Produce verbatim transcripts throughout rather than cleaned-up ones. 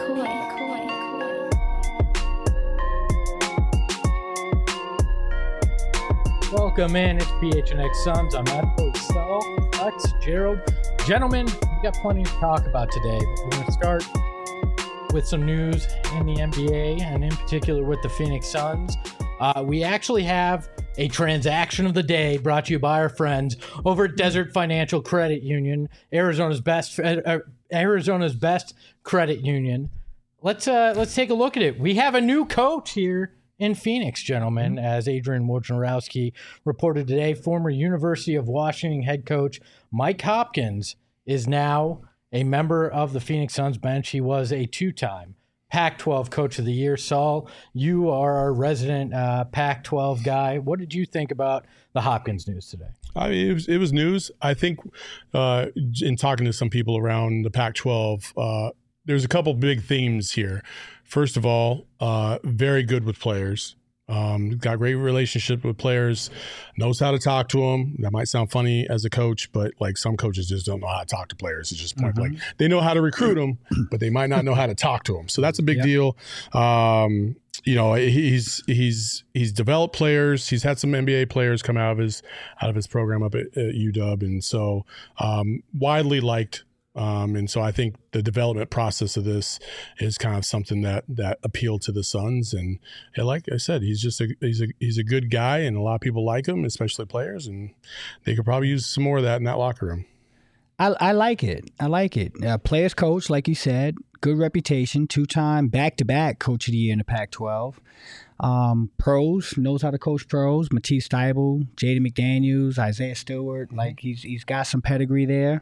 Welcome in. It's P H N X Suns. I'm Matt Saul, Lex, Gerald. Gentlemen, we got plenty to talk about today. But we're going to start with some news in the N B A, and in particular with the Phoenix Suns. Uh, we actually have a transaction of the day brought to you by our friends over at Desert Financial Credit Union, Arizona's best uh, Arizona's best credit union. Let's uh, let's take a look at it. We have a new coach here in Phoenix, gentlemen, mm-hmm. as Adrian Wojnarowski reported today. Former University of Washington head coach Mike Hopkins is now a member of the Phoenix Suns bench. He was a two-time Pac twelve Coach of the Year. Saul, you are our resident uh, Pac twelve guy. What did you think about the Hopkins news today? I mean, it was, it was news. I think uh, in talking to some people around the Pac twelve, uh, there's a couple big themes here. First of all, uh, very good with players. Um, got great relationship with players, knows how to talk to them. That might sound funny as a coach, but like some coaches just don't know how to talk to players. It's just point mm-hmm. blank. They know how to recruit them, but they might not know how to talk to them. So that's a big yep. deal. Um, you know, he's he's he's developed players. He's had some N B A players come out of his out of his program up at, at U W, and so um, widely liked. Um, and so I think the development process of this is kind of something that that appealed to the Suns. And, and like I said, he's just a he's a he's a good guy, and a lot of people like him, especially players. And they could probably use some more of that in that locker room. I, I like it. I like it. Uh, players coach, like you said, good reputation, two-time back-to-back Coach of the Year in the Pac twelve. Um, pros, knows how to coach pros. Matisse Thybulle, Jaden McDaniels, Isaiah Stewart. Like he's he's got some pedigree there.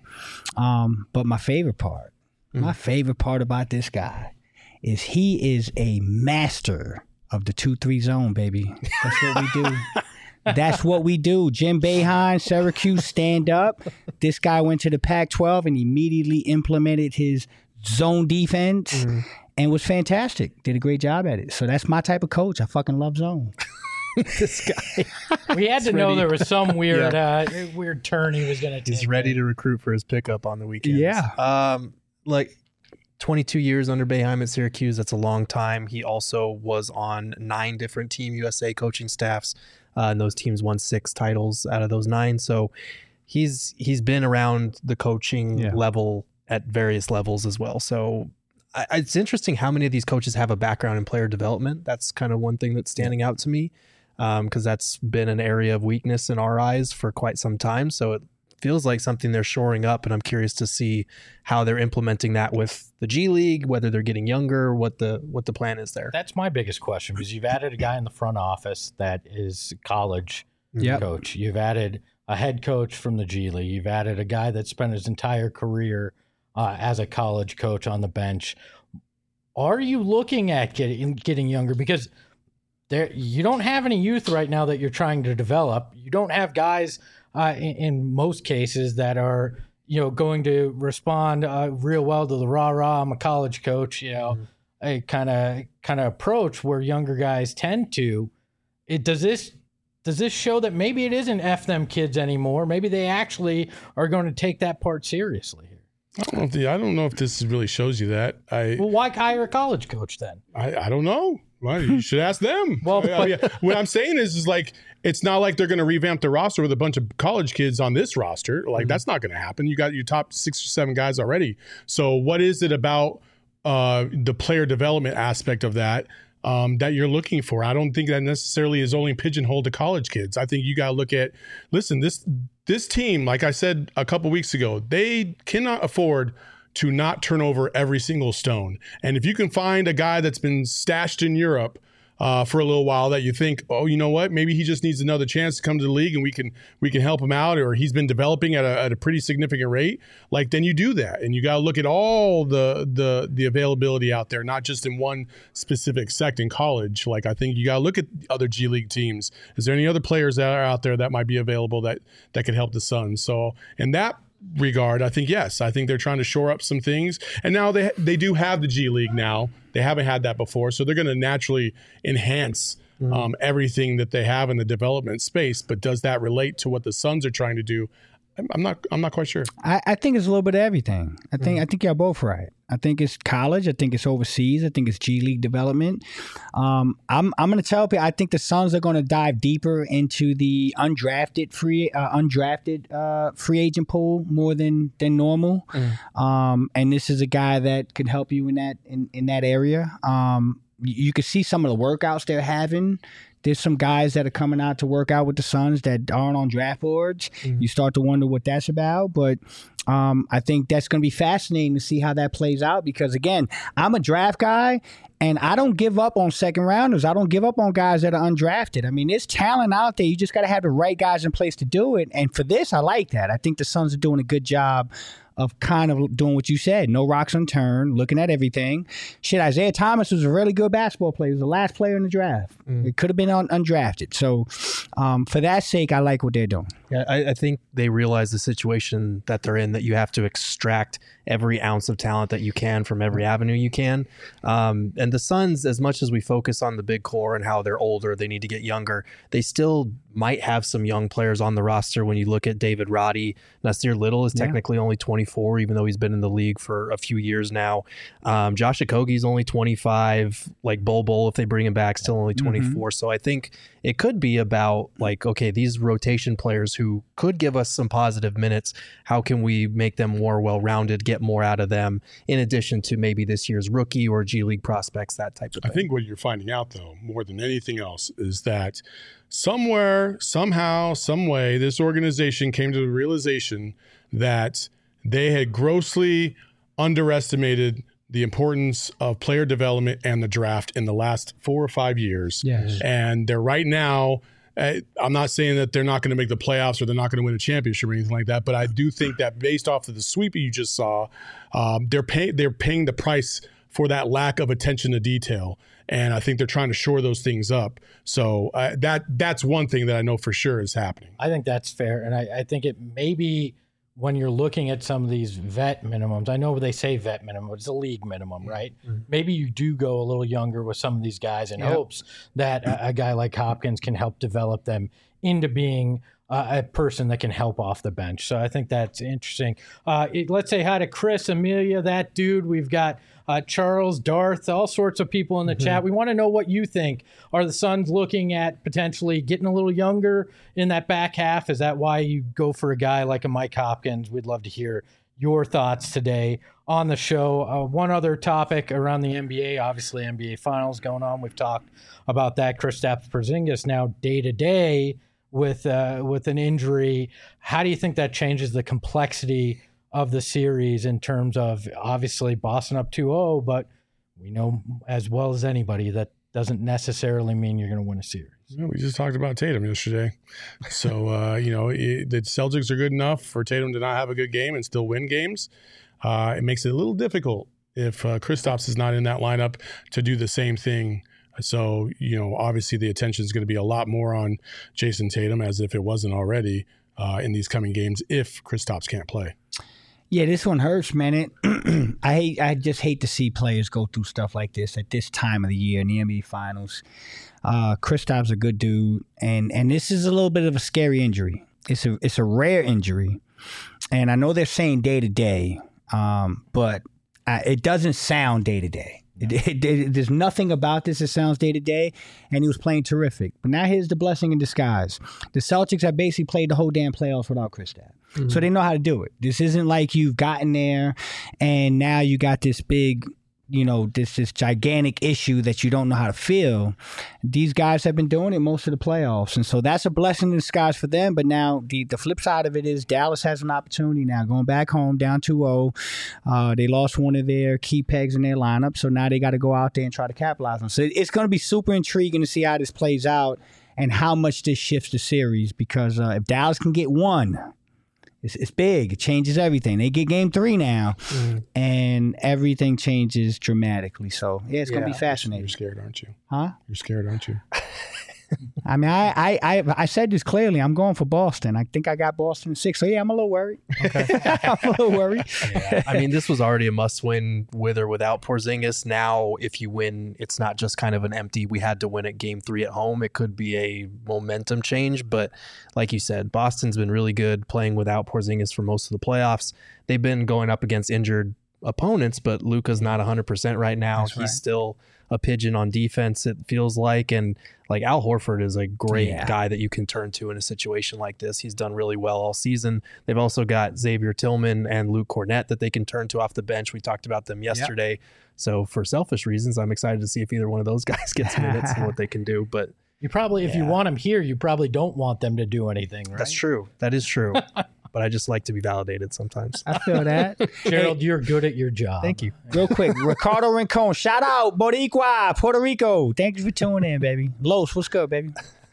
Um, but my favorite part, mm. my favorite part about this guy is he is a master of the two three zone, baby. That's what we do. That's what we do. Jim Boeheim, Syracuse, stand up. This guy went to the Pac twelve and immediately implemented his zone defense. Mm. And was fantastic. Did a great job at it. So that's my type of coach. I fucking love zone. This guy. We had to know there was some weird yeah. uh, weird turn he was going to take. He's ready to recruit for his pickup on the weekends. Yeah. Um, like twenty-two years under Boeheim at Syracuse. That's a long time. He also was on nine different Team U S A coaching staffs. Uh, and those teams won six titles out of those nine. So he's he's been around the coaching yeah. level at various levels as well. So it's interesting how many of these coaches have a background in player development. That's kind of one thing that's standing out to me because um, that's been an area of weakness in our eyes for quite some time. So it feels like something they're shoring up, and I'm curious to see how they're implementing that with the G League, whether they're getting younger, what the what the plan is there. That's my biggest question, because you've added a guy in the front office that is college yep. coach. You've added a head coach from the G League. You've added a guy that spent his entire career Uh, as a college coach on the bench. Are you looking at getting getting younger? Because there, you don't have any youth right now that you're trying to develop. You don't have guys uh, in, in most cases that are, you know, going to respond uh, real well to the rah rah. I'm a college coach, you know, mm-hmm. a kind of kind of approach where younger guys tend to. It does this. Does this show that maybe it isn't F them kids anymore? Maybe they actually are going to take that part seriously here. I don't know if the, I don't know if this really shows you that. I well, why hire a college coach then? I, I don't know. Well, you should ask them. well, but, I mean, what I'm saying is, is like it's not like they're going to revamp the roster with a bunch of college kids on this roster. Like mm-hmm. that's not going to happen. You got your top six or seven guys already. So what is it about uh, the player development aspect of that um, that you're looking for? I don't think that necessarily is only pigeonholed to college kids. I think you got to look at. Listen, this. This team, like I said a couple weeks ago, they cannot afford to not turn over every single stone. And if you can find a guy that's been stashed in Europe uh, for a little while that you think, oh, you know what, maybe he just needs another chance to come to the league and we can we can help him out, or he's been developing at a, at a pretty significant rate, like then you do that. And you got to look at all the the the availability out there, not just in one specific sect in college. Like I think you got to look at other G League teams. Is there any other players that are out there that might be available that that could help the Suns? So in that regard, I think yes, I think they're trying to shore up some things, and now they they do have the G League now. They haven't had that before, so they're going to naturally enhance mm-hmm. um, everything that they have in the development space. But does that relate to what the Suns are trying to do? I'm, I'm not. I'm not quite sure. I, I think it's a little bit of everything. I think. Mm-hmm. I think y'all both right. I think it's college. I think it's overseas. I think it's G League development. Um, I'm I'm going to tell people I think the Suns are going to dive deeper into the undrafted free uh, undrafted uh, free agent pool more than than normal. Mm. Um, and this is a guy that could help you in that in, in that area. Um, you, you can see some of the workouts they're having. There's some guys that are coming out to work out with the Suns that aren't on draft boards. Mm-hmm. You start to wonder what that's about. But um, I think that's going to be fascinating to see how that plays out because, again, I'm a draft guy, and I don't give up on second rounders. I don't give up on guys that are undrafted. I mean, there's talent out there. You just got to have the right guys in place to do it. And for this, I like that. I think the Suns are doing a good job of kind of doing what you said, no rocks unturned, looking at everything. Shit, Isaiah Thomas was a really good basketball player. He was the last player in the draft. Mm. It could have been un- undrafted. So um, for that sake, I like what they're doing. Yeah, I, I think they realize the situation that they're in, that you have to extract every ounce of talent that you can from every avenue you can. Um, and the Suns, as much as we focus on the big core and how they're older, they need to get younger, they still might have some young players on the roster. When you look at David Roddy, Nasir Little is technically yeah. only twenty-four, even though he's been in the league for a few years now. Um, Josh Okogie's only twenty-five, like Bol Bol, if they bring him back, still only twenty-four. Mm-hmm. So I think it could be about like, okay, these rotation players who could give us some positive minutes, how can we make them more well-rounded, get more out of them, in addition to maybe this year's rookie or G League prospects, that type of thing. I think what you're finding out, though, more than anything else, is that somewhere, somehow, some way, this organization came to the realization that they had grossly underestimated the importance of player development and the draft in the last four or five years. Yes. And they're right now, I'm not saying that they're not going to make the playoffs or they're not going to win a championship or anything like that, but I do think that based off of the sweep you just saw, um, they're pay, they're paying the price for that lack of attention to detail. And I think they're trying to shore those things up. So uh, that that's one thing that I know for sure is happening. I think that's fair. And I, I think it maybe when you're looking at some of these vet minimums, I know they say vet minimum, it's a league minimum, right? Mm-hmm. Maybe you do go a little younger with some of these guys in yep. hopes that a, a guy like Hopkins can help develop them into being uh, a person that can help off the bench. So I think that's interesting. Uh, it, let's say hi to Chris, Amelia, that dude. We've got uh, Charles, Darth, all sorts of people in the mm-hmm. chat. We want to know what you think. Are the Suns looking at potentially getting a little younger in that back half? Is that why you go for a guy like a Mike Hopkins? We'd love to hear your thoughts today on the show. Uh, one other topic around the N B A, obviously N B A Finals going on. We've talked about that. Kristaps Porzingis now day to day with uh, with an injury. How do you think that changes the complexity of the series in terms of obviously Boston up two oh, but we know as well as anybody that doesn't necessarily mean you're going to win a series. Yeah, we just talked about Tatum yesterday. So, uh, you know, it, the Celtics are good enough for Tatum to not have a good game and still win games. Uh, it makes it a little difficult if uh, Kristaps is not in that lineup to do the same thing. So, you know, obviously the attention is going to be a lot more on Jason Tatum, as if it wasn't already uh, in these coming games, if Kristaps can't play. Yeah, this one hurts, man. It, I hate. I just hate to see players go through stuff like this at this time of the year in the N B A Finals. Uh, Kristaps a good dude, and and this is a little bit of a scary injury. It's a it's a rare injury, and I know they're saying day to day, um, but I, it doesn't sound day to day. It, it, it, there's nothing about this that sounds day to day, and he was playing terrific. But now here's the blessing in disguise. The Celtics have basically played the whole damn playoffs without Kristaps. Mm-hmm. So they know how to do it. This isn't like you've gotten there and now you got this big, you know, this this gigantic issue that you don't know how to fill. These guys have been doing it most of the playoffs. And so that's a blessing in disguise for them. But now the, the flip side of it is Dallas has an opportunity now going back home down two oh. Uh, they lost one of their key pegs in their lineup. So now they got to go out there and try to capitalize on. So it's going to be super intriguing to see how this plays out and how much this shifts the series. Because uh, if Dallas can get one, It's, it's big. It changes everything. They get game three now, mm. and everything changes dramatically. So, yeah, it's yeah. going to be fascinating. You're scared, aren't you? Huh? You're scared, aren't you? I mean, I, I, I, I said this clearly. I'm going for Boston. I think I got Boston in six. So, yeah, I'm a little worried. Okay. I'm a little worried. Yeah. I mean, this was already a must-win with or without Porzingis. Now, if you win, it's not just kind of an empty, we had to win at game three at home. It could be a momentum change. But like you said, Boston's been really good playing without Porzingis for most of the playoffs. They've been going up against injured opponents, but Luka's not one hundred percent right now. That's He's right. still a pigeon on defense, it feels like. And like Al Horford is a great Yeah. guy that you can turn to in a situation like this. He's done really well all season. They've also got Xavier Tillman and Luke Cornett that they can turn to off the bench. We talked about them yesterday. So for selfish reasons, I'm excited to see if either one of those guys gets minutes and what they can do. But You probably, if you Yeah. want them here, you probably don't want them to do anything, right? that's true. That is true. But I just like to be validated sometimes. I feel that. Gerald, you're good at your job. Thank you. Real quick, Ricardo Rincon, shout out, Boricua, Puerto Rico. Thank you for tuning in, baby. Los, what's good, baby?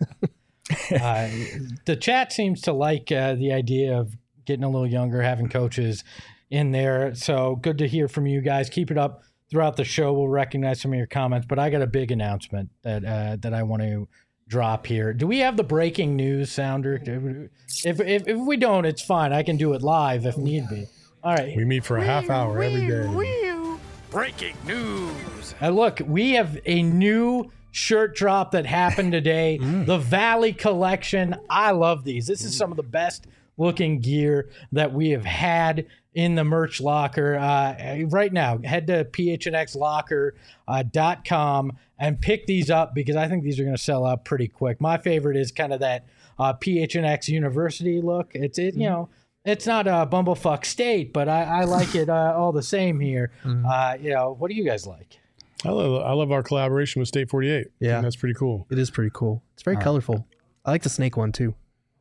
Uh, the chat seems to like uh, the idea of getting a little younger, having coaches in there. So good to hear from you guys. Keep it up throughout the show. We'll recognize some of your comments, but I got a big announcement that uh, that I want to drop here. Do we have the breaking news sounder? If, if if we don't, it's fine. I can do it live if need be. All right. We meet for a half hour every day. Breaking news. Uh, look, we have a new shirt drop that happened today. The Valley Collection. I love these. This is some of the best looking gear that we have had in the merch locker. Uh, right now, head to p h n x locker dot com and pick these up because I think these are going to sell out pretty quick. My favorite is kind of that uh, P H N X University look. It's it, you know. It's not a bumblefuck state, but I, I like it uh, all the same here. Uh, you know, what do you guys like? I love, I love our collaboration with State forty-eight. Yeah. And that's pretty cool. It is pretty cool. It's very colorful. I like the snake one too.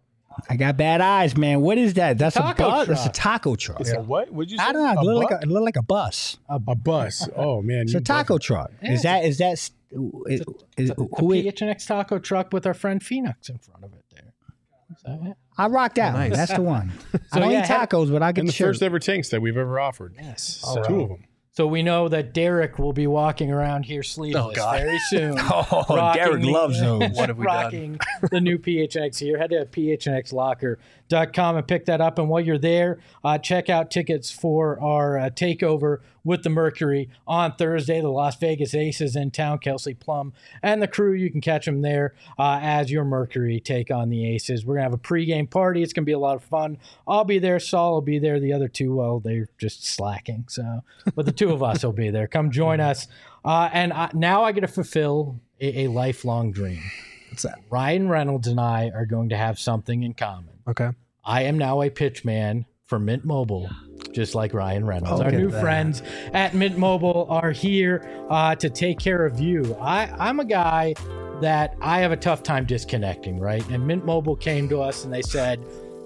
I got bad eyes, man. What is that? That's a Taco bus. That's a truck. taco truck. It's a what? Would you say? I don't know. It A, look buck? like a, it look like a bus. a bus. Oh man, It's you a taco truck. Is that is that is, is, The who it, P H N X taco truck with our friend Phoenix in front of it there. Is that it? I rock that one. nice. That's the one. I So, don't yeah, eat have- tacos, but I get And the the shirt. first ever tanks that we've ever offered. Yes. So two of them. So we know that Derek will be walking around here sleeveless God. very soon. Oh, Rocking Derek the- loves those. What have we done? rocking the new P H N X here. Head to p h n x locker dot com and pick that up. And while you're there, uh, check out tickets for our uh, takeover with the Mercury on Thursday. The Las Vegas Aces in town, Kelsey Plum and the crew. You can catch them there uh, as your Mercury take on the Aces. We're going to have a pregame party. It's going to be a lot of fun. I'll be there. Saul will be there. The other two, well, they're just slacking. So, but the two of us will be there. Come join us. Uh, and I, now I get to fulfill a, a lifelong dream. What's that? Ryan Reynolds and I are going to have something in common. Okay. I am now a pitch man for Mint Mobile, just like Ryan Reynolds. Oh, Our look new at that. friends at Mint Mobile are here uh, to take care of you. I, I'm a guy that I have a tough time disconnecting, right? And Mint Mobile came to us and they said,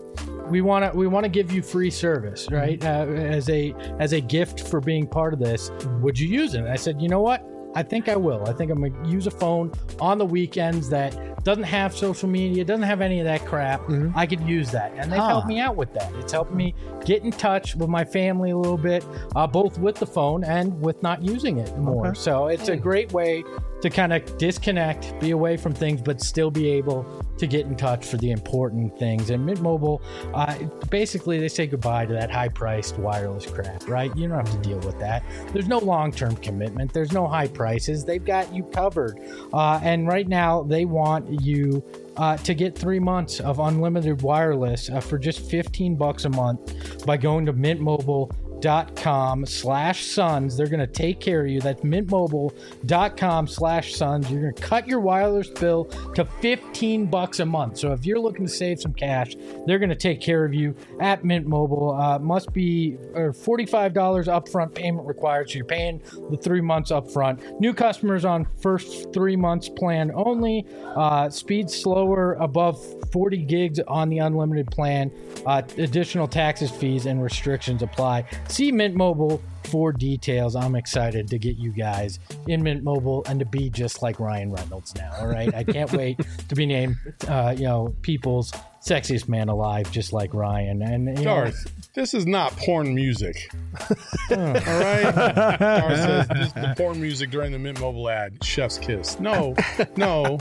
we want to we want to give you free service, right? Uh, as a as a gift for being part of this. Would you use it? And I said, you know what? I think I will. I think I'm gonna use a phone on the weekends that doesn't have social media, doesn't have any of that crap. Mm-hmm. I could use that, and they've Huh. helped me out with that. It's helped me get in touch with my family a little bit, uh, both with the phone and with not using it more. Okay. So it's a great way to kind of disconnect, be away from things, but still be able to get in touch for the important things. And Mint Mobile, uh, basically, they say goodbye to that high-priced wireless crap, right? You don't have to deal with that. There's no long-term commitment. There's no high prices. They've got you covered. Uh, and right now, they want you uh, to get three months of unlimited wireless uh, for just fifteen bucks a month by going to Mint Mobile. Dot com slash sons. They're going to take care of you. That's mintmobile.com slash sons. You're going to cut your wireless bill to fifteen bucks a month. So if you're looking to save some cash, they're going to take care of you at Mint Mobile. Uh, must be uh, forty-five dollars upfront payment required. So you're paying the three months upfront. New customers on first three months plan only. Uh, speed slower above forty gigs on the unlimited plan. Uh, additional taxes, fees, and restrictions apply. See Mint Mobile for details. I'm excited to get you guys in Mint Mobile and to be just like Ryan Reynolds now. All right. I can't wait to be named, uh, you know, people's sexiest man alive, just like Ryan. And you know, Darth, this is not porn music. All right? Darth says this is the porn music during the Mint Mobile ad. Chef's kiss. No, no,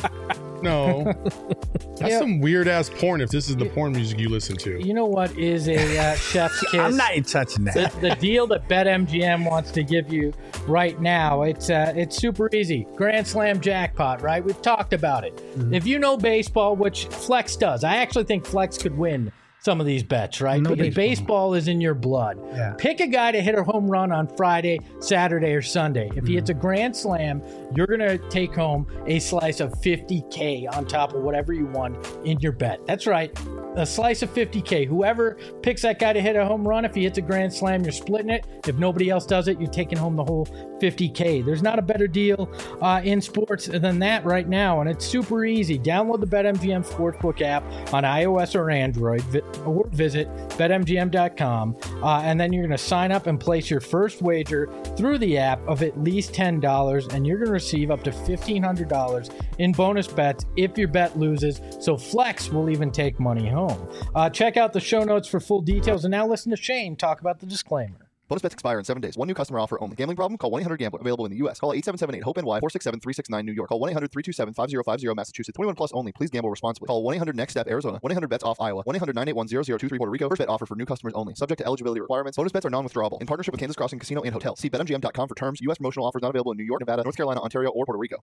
no. That's Yeah. some weird ass porn if this is the porn music you listen to. you know what is a uh, chef's kiss? I'm not even touching the, that. the deal that BetMGM wants to give you right now, it's uh, it's super easy. Grand Slam jackpot, right? We've talked about it. If you know baseball, which Flex does, I actually think Flex could win some of these bets, right? No because baseball. baseball is in your blood. Yeah. Pick a guy to hit a home run on Friday, Saturday, or Sunday. If he hits a grand slam, you're going to take home a slice of fifty K on top of whatever you won in your bet. That's right. A slice of fifty K. Whoever picks that guy to hit a home run, if he hits a grand slam, you're splitting it. If nobody else does it, you're taking home the whole fifty K. There's not a better deal uh, in sports than that right now, and it's super easy. Download the BetMGM Sportsbook app on iOS or Android, vi- or visit bet M G M dot com, uh, and then you're going to sign up and place your first wager through the app of at least ten dollars, and you're going to receive up to fifteen hundred dollars in bonus bets if your bet loses, so Flex will even take money home. Uh, check out the show notes for full details, and now listen to Shane talk about the disclaimer. Bonus bets expire in seven days. One new customer offer only. Gambling problem? Call one eight hundred gambler. Available in the U S. Call eight seven seven eight hope N Y four six seven three six nine New York. Call one eight hundred three two seven five zero five zero Massachusetts. twenty-one plus only. Please gamble responsibly. Call one eight hundred next step Arizona. one eight hundred bets off Iowa. one eight hundred nine eight one zero zero two three Puerto Rico. First bet offer for new customers only. Subject to eligibility requirements. Bonus bets are non-withdrawable. In partnership with Kansas Crossing Casino and Hotel. See bet M G M dot com for terms. U S promotional offers not available in New York, Nevada, North Carolina, Ontario, or Puerto Rico.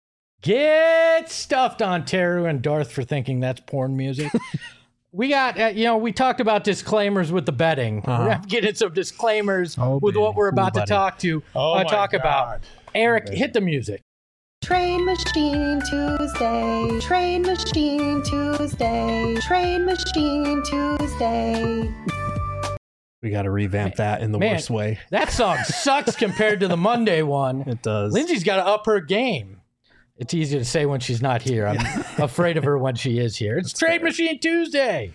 Get stuffed, Ontario and Darth, for thinking that's porn music. We got, uh, you know, we talked about disclaimers with the betting. Uh-huh. We're going to get into some disclaimers Oh, with baby. what we're about Ooh, to buddy. talk to, Oh uh, my talk God. about. Eric, hit the music. Train Machine Tuesday, Train Machine Tuesday, Train Machine Tuesday. We got to revamp that in the Man, worst way. That song sucks compared to the Monday one. It does. Lindsay's got to up her game. It's easy to say when she's not here. I'm afraid of her when she is here. It's Trade Machine Tuesday.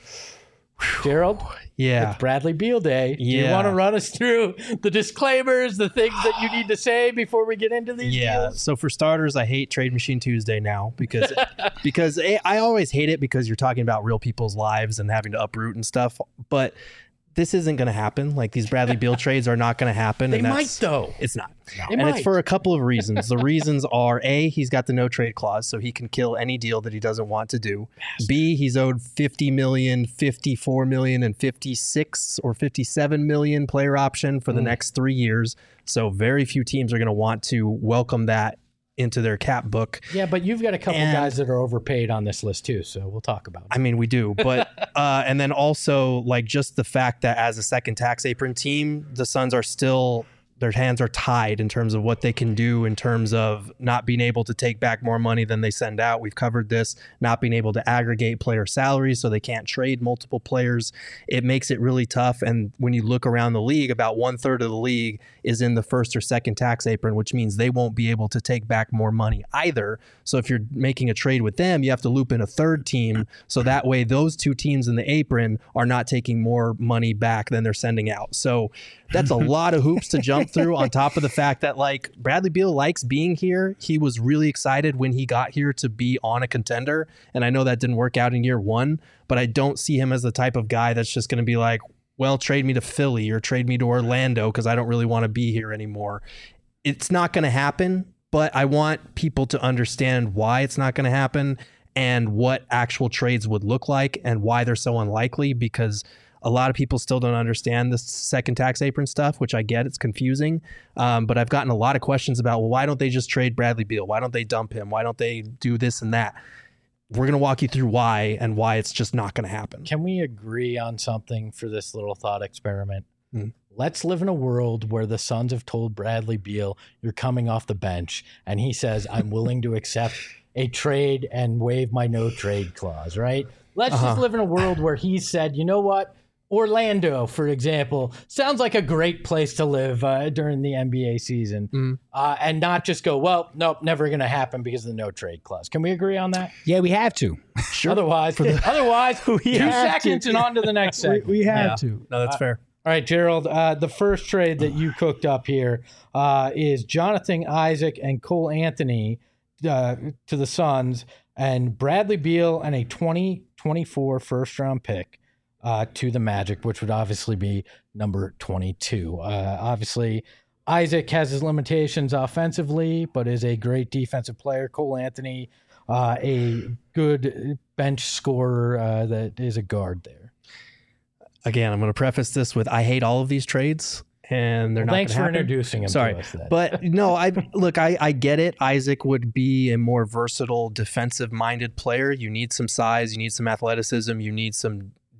Gerald, Yeah. it's Bradley Beal Day. Do you Yeah. want to run us through the disclaimers, the things that you need to say before we get into these Yeah. deals? So for starters, I hate Trade Machine Tuesday now because because I I always hate it because you're talking about real people's lives and having to uproot and stuff. But this isn't going to happen. Like these Bradley Beal trades are not going to happen. They and might, that's- though. It's not. They and might. it's for a couple of reasons. The reasons are A, he's got the no trade clause, so he can kill any deal that he doesn't want to do. B, he's owed fifty million, fifty-four million, and fifty-six or fifty-seven million player option for the Mm. next three years. So very few teams are going to want to welcome that into their cap book. Yeah, but you've got a couple And- guys that are overpaid on this list, too, so we'll talk about it. I mean, we do, but uh, and then also like just the fact that as a second tax apron team, the Suns are still their hands are tied in terms of what they can do in terms of not being able to take back more money than they send out. We've covered this, not being able to aggregate player salaries so they can't trade multiple players. It makes it really tough. And when you look around the league, about one third of the league is in the first or second tax apron, which means they won't be able to take back more money either. So if you're making a trade with them, you have to loop in a third team. So that way those two teams in the apron are not taking more money back than they're sending out. So that's a lot of hoops to jump through on top of the fact that like Bradley Beal likes being here. He was really excited when he got here to be on a contender. And I know that didn't work out in year one, but I don't see him as the type of guy that's just going to be like, well, trade me to Philly or trade me to Orlando because I don't really want to be here anymore. It's not going to happen, but I want people to understand why it's not going to happen and what actual trades would look like and why they're so unlikely, because a lot of people still don't understand this second tax apron stuff, which I get. It's confusing. Um, but I've gotten a lot of questions about, well, why don't they just trade Bradley Beal? Why don't they dump him? Why don't they do this and that? We're going to walk you through why and why it's just not going to happen. Can we agree on something for this little thought experiment? Hmm. Let's live in a world where the Suns have told Bradley Beal, you're coming off the bench, and he says, I'm willing to accept a trade and waive my no trade clause, right? Let's Uh-huh. just live in a world where he said, you know what? Orlando, for example, sounds like a great place to live uh, during the N B A season, Mm. uh, and not just go, well, nope, never going to happen because of the no trade clause. Can we agree on that? Yeah, we have to. Otherwise, otherwise, two have seconds to. and on to the next We, segment. we have Yeah. to. No, that's fair. All right, Gerald, uh, the first trade that you cooked up here uh, is Jonathan Isaac and Cole Anthony uh, to the Suns, and Bradley Beal and a twenty twenty-four first round pick uh, to the Magic, which would obviously be number twenty-two. Uh, obviously, Isaac has his limitations offensively, but is a great defensive player. Cole Anthony, uh, a good bench scorer uh, that is a guard there. Again, I'm going to preface this with I hate all of these trades, and they're Well, not thanks gonna for happen. introducing him Sorry, to us. Then. but no, I look, I, I get it. Isaac would be a more versatile, defensive-minded player. You need some size, you need some athleticism, you need some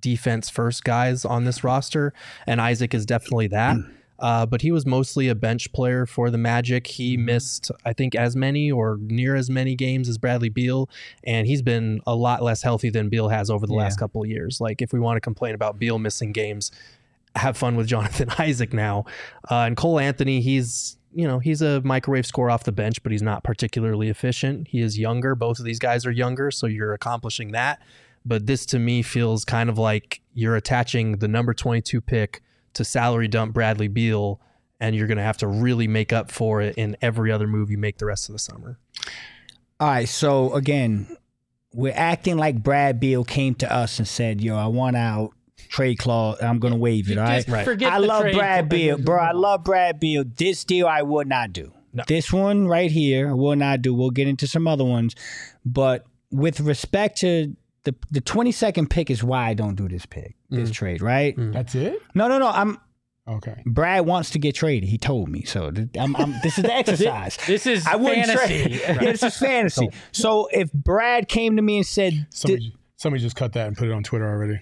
defense first guys on this roster, and Isaac is definitely that. Uh, but he was mostly a bench player for the Magic. He missed, I think, as many or near as many games as Bradley Beal, and he's been a lot less healthy than Beal has over the yeah. last couple of years. Like, if we want to complain about Beal missing games, have fun with Jonathan Isaac now. Uh, and Cole Anthony, he's, you know, he's a microwave scorer off the bench, but he's not particularly efficient. He is younger. Both of these guys are younger, so you're accomplishing that. But this, to me, feels kind of like you're attaching the number twenty-two pick to salary dump Bradley Beal, and you're going to have to really make up for it in every other move you make the rest of the summer. All right, so again, we're acting like Brad Beal came to us and said, yo, I want out, trade clause, I'm going to waive it, all right? Just forget I the love trade Brad Beal. Bro, I love Brad Beal. This deal I would not do. No. This one right here, I will not do. We'll get into some other ones. But with respect to the the twenty-second pick is why I don't do this pick, this Mm. trade, right? Mm. That's it? No, no, no. I'm Okay. Brad wants to get traded. He told me. So th- I'm, I'm, this is the exercise. This is I wouldn't fantasy. trade. Yeah, this is fantasy. So if Brad came to me and said, Somebody, somebody just cut that and put it on Twitter already.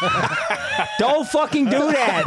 don't fucking do that,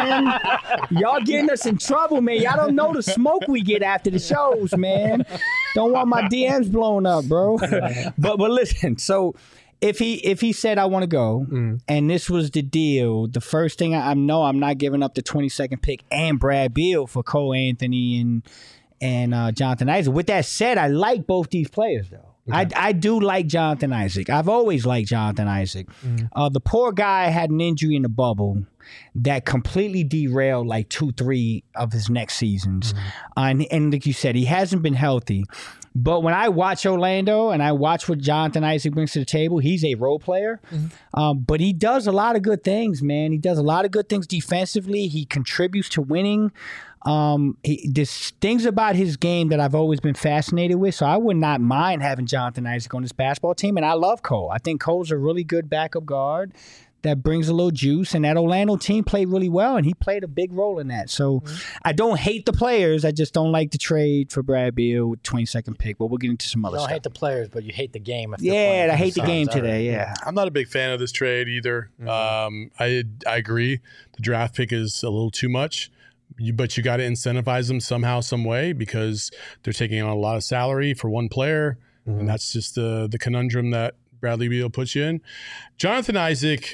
man. Y'all getting us in trouble, man. Y'all don't know the smoke we get after the shows, man. Don't want my D Ms blown up, bro. but but listen, so if he if he said I want to go, Mm. and this was the deal, the first thing I, I know, I'm not giving up the twenty-second pick and Brad Beal for Cole Anthony and and uh, Jonathan Isaac. With that said, I like both these players though. I, I do like Jonathan Isaac. I've always liked Jonathan Isaac. Mm. Uh, the poor guy had an injury in the bubble that completely derailed like two, three of his next seasons. Mm. Uh, and, and like you said, he hasn't been healthy. But when I watch Orlando and I watch what Jonathan Isaac brings to the table, he's a role player. Mm-hmm. Um, but he does a lot of good things, man. He does a lot of good things defensively. He contributes to winning. Um, he, there's things about his game that I've always been fascinated with. So I would not mind having Jonathan Isaac on this basketball team. And I love Cole. I think Cole's a really good backup guard that brings a little juice. And that Orlando team played really well, and he played a big role in that. So mm-hmm. I don't hate the players. I just don't like the trade for Brad Beal with twenty-second pick. But we'll get into some other You don't stuff. hate the players, but you hate the game. If they're Yeah, playing I for hate the Suns. game All today. right. Yeah. I'm not a big fan of this trade either. Mm-hmm. Um, I I agree. The draft pick is a little too much, you, but you got to incentivize them somehow, some way, because they're taking on a lot of salary for one player, Mm-hmm. and that's just the the conundrum that Bradley Beal puts you in. Jonathan Isaac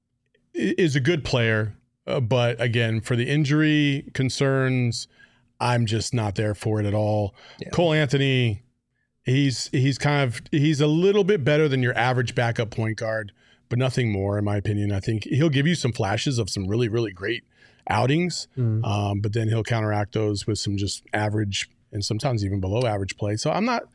is a good player, uh, but again, for the injury concerns, I'm just not there for it at all. Yeah. Cole Anthony, he's he's kind of he's a little bit better than your average backup point guard, but nothing more, in my opinion. I think he'll give you some flashes of some really, really great outings, Mm. um, but then he'll counteract those with some just average and sometimes even below average play. So I'm not.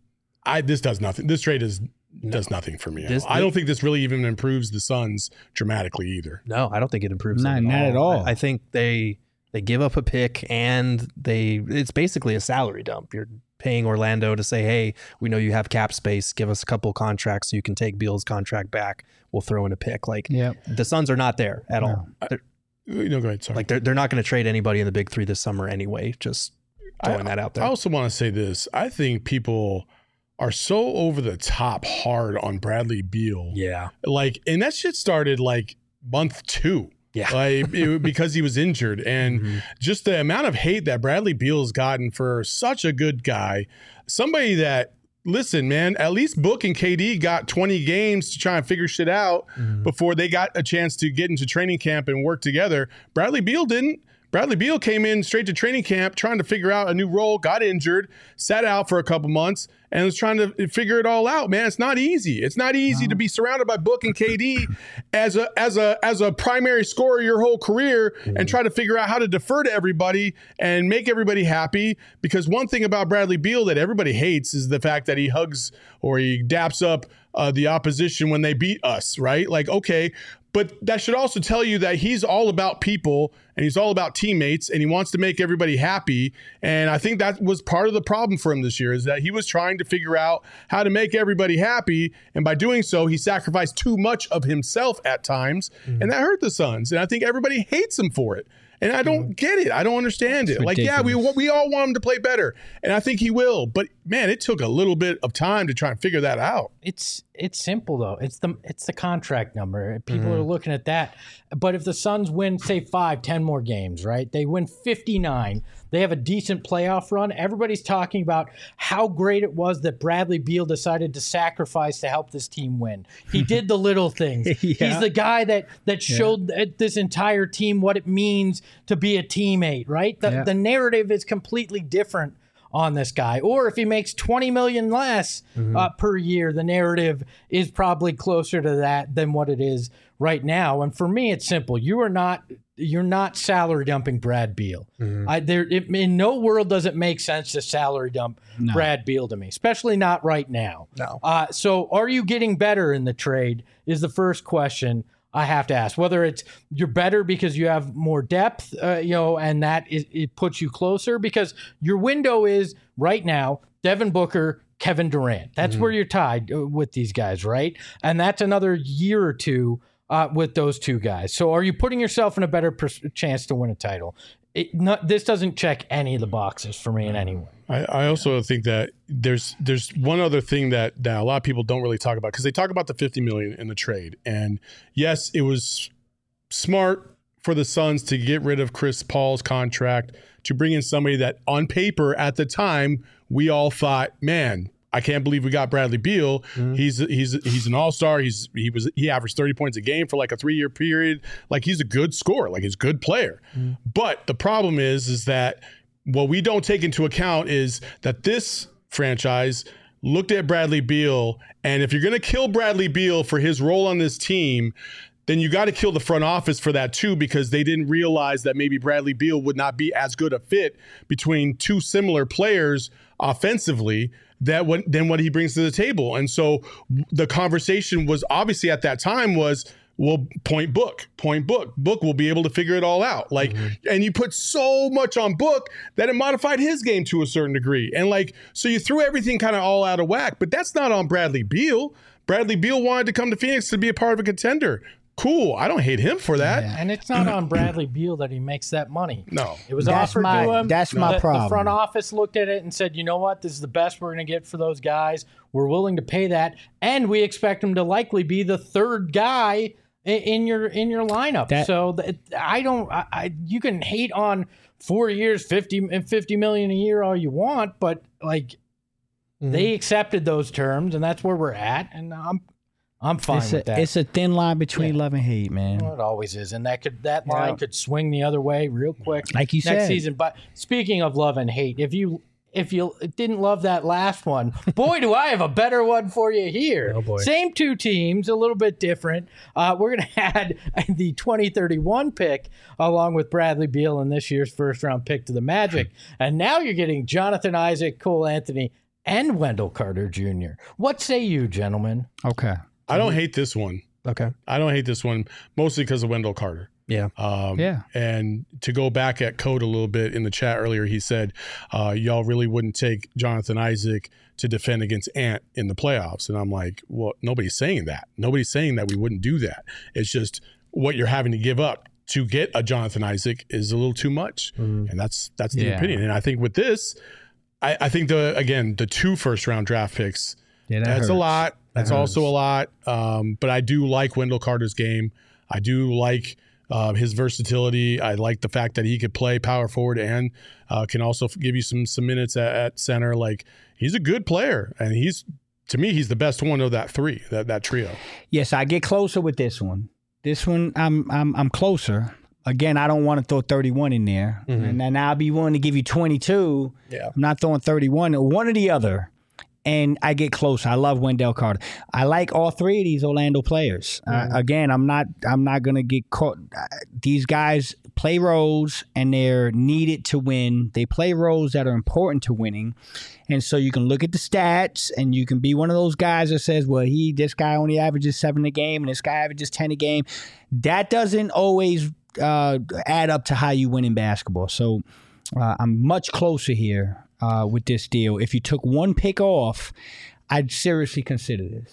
I this does nothing. This trade is. Does nothing for me. This- I don't think this really even improves the Suns dramatically either. No, I don't think it improves Not- them not at all. I, I think they they give up a pick, and they it's basically a salary dump. You're paying Orlando to say, hey, we know you have cap space. Give us a couple contracts so you can take Beal's contract back. We'll throw in a pick. Like Yeah. the Suns are not there at all. They're, No, go ahead. Sorry. like they're they're not going to trade anybody in the big three this summer anyway. Just throwing I, that out there. I also want to say this. I think people are so over the top hard on Bradley Beal. yeah. Like, and that shit started like month two. Yeah. Like it, because he was injured, and Mhm. just the amount of hate that Bradley Beal's gotten for such a good guy, somebody that, listen, man, at least Book and K D got twenty games to try and figure shit out Mhm. before they got a chance to get into training camp and work together. Bradley Beal didn't. Bradley Beal came in straight to training camp trying to figure out a new role, got injured, sat out for a couple months, and was trying to figure it all out. Man, it's not easy. It's not easy to be surrounded by Book and K D as a as a as a primary scorer your whole career and try to figure out how to defer to everybody and make everybody happy. Because one thing about Bradley Beal that everybody hates is the fact that he hugs or he daps up uh, the opposition when they beat us, right? Like, okay. But that should also tell you that he's all about people and he's all about teammates and he wants to make everybody happy. And I think that was part of the problem for him this year, is that he was trying to figure out how to make everybody happy. And by doing so, he sacrificed too much of himself at times. Mm-hmm. And that hurt the Suns. And I think everybody hates him for it. And I don't get it. I don't understand it. It's like, yeah, we ridiculous. we all want him to play better, and I think he will. But man, it took a little bit of time to try and figure that out. It's it's simple though. It's the it's the contract number. People Mm-hmm. are looking at that. But if the Suns win, say five, ten more games, right? They win fifty-nine. They have a decent playoff run. Everybody's talking about how great it was that Bradley Beal decided to sacrifice to help this team win. He did the little things. Yeah. He's the guy that that showed th- this entire team what it means to be a teammate, right? The, Yeah. the narrative is completely different on this guy. Or if he makes twenty million less uh, per year, the narrative is probably closer to that than what it is right now. And for me, it's simple. You are not you're not salary dumping Brad Beal. I, there, it, in no world does it make sense to salary dump Brad Beal to me, especially not right now. No. Uh, so are you getting better in the trade is the first question I have to ask. Whether it's you're better because you have more depth, uh, you know, and that is, it puts you closer, because your window is right now Devin Booker, Kevin Durant. That's where you're tied uh, with these guys, right? And that's another year or two uh, with those two guys. So are you putting yourself in a better pers- chance to win a title? It, not, this doesn't check any of the boxes for me in any way. I, I also think that there's there's one other thing that, that a lot of people don't really talk about, because they talk about the fifty million dollars in the trade. And yes, it was smart for the Suns to get rid of Chris Paul's contract to bring in somebody that on paper at the time we all thought, man, I can't believe we got Bradley Beal. Mm-hmm. He's he's he's an all-star. He's he was he averaged thirty points a game for like a three-year period. Like, he's a good scorer. Like, he's a good player. Mm-hmm. But the problem is is that what we don't take into account is that this franchise looked at Bradley Beal, and if you're going to kill Bradley Beal for his role on this team, then you got to kill the front office for that too, because they didn't realize that maybe Bradley Beal would not be as good a fit between two similar players offensively that what, than what he brings to the table. And so the conversation was obviously at that time was, well, point Book, point Book. Book will be able to figure it all out. Like, mm-hmm. and you put so much on Book that it modified his game to a certain degree. And like, so you threw everything kind of all out of whack, but that's not on Bradley Beal. Bradley Beal wanted to come to Phoenix to be a part of a contender. Cool. I don't hate him for that. Yeah. And it's not on Bradley Beal that he makes that money. No. It was That's offered my- to him. that's my the, problem. The front office looked at it and said, you know what? This is the best we're going to get for those guys. We're willing to pay that. And we expect him to likely be the third guy in, in your in your lineup. That- so th- I don't I, I you can hate on four years, fifty, fifty million a year all you want, but like mm-hmm. they accepted those terms, and that's where we're at. And I'm I'm fine it's with a, that. It's a thin line between Yeah. love and hate, man. Well, it always is, and that could that line Yeah. could swing the other way real quick Like you next said. season. But speaking of love and hate, if you if you didn't love that last one, boy, do I have a better one for you here. Oh, boy. Same two teams, a little bit different. Uh, we're gonna add the twenty thirty-one pick along with Bradley Beal and this year's first round pick to the Magic, and now you're getting Jonathan Isaac, Cole Anthony, and Wendell Carter Junior What say you, gentlemen? Okay. I don't hate this one. Okay. I don't hate this one, mostly because of Wendell Carter. Yeah. Um, Yeah. And to go back at Code a little bit in the chat earlier, he said, uh, y'all really wouldn't take Jonathan Isaac to defend against Ant in the playoffs. And I'm like, well, nobody's saying that. Nobody's saying that we wouldn't do that. It's just what you're having to give up to get a Jonathan Isaac is a little too much. Mm. And that's that's the Yeah. opinion. And I think with this, I, I think the again, the two first round draft picks, Yeah, that that's a hurts. lot. That's That also hurts. a lot. Um, but I do like Wendell Carter's game. I do like uh, his versatility. I like the fact that he could play power forward and uh, can also f- give you some some minutes at, at center. Like, he's a good player, and he's to me he's the best one of that three, that that trio. Yes, I get closer with this one. This one, I'm I'm I'm closer. Again, I don't want to throw thirty-one in there, Mhm. and then I'll be willing to give you twenty-two. Yeah. I'm not throwing thirty-one. One or the other. And I get closer. I love Wendell Carter. I like all three of these Orlando players. Mm-hmm. Uh, again, I'm not. I'm not gonna get caught. Uh, these guys play roles, and they're needed to win. They play roles that are important to winning, and so you can look at the stats, and you can be one of those guys that says, "Well, he this guy only averages seven a game, and this guy averages ten a game." That doesn't always uh, add up to how you win in basketball. So uh, I'm much closer here. Uh, with this deal, if you took one pick off, I'd seriously consider this.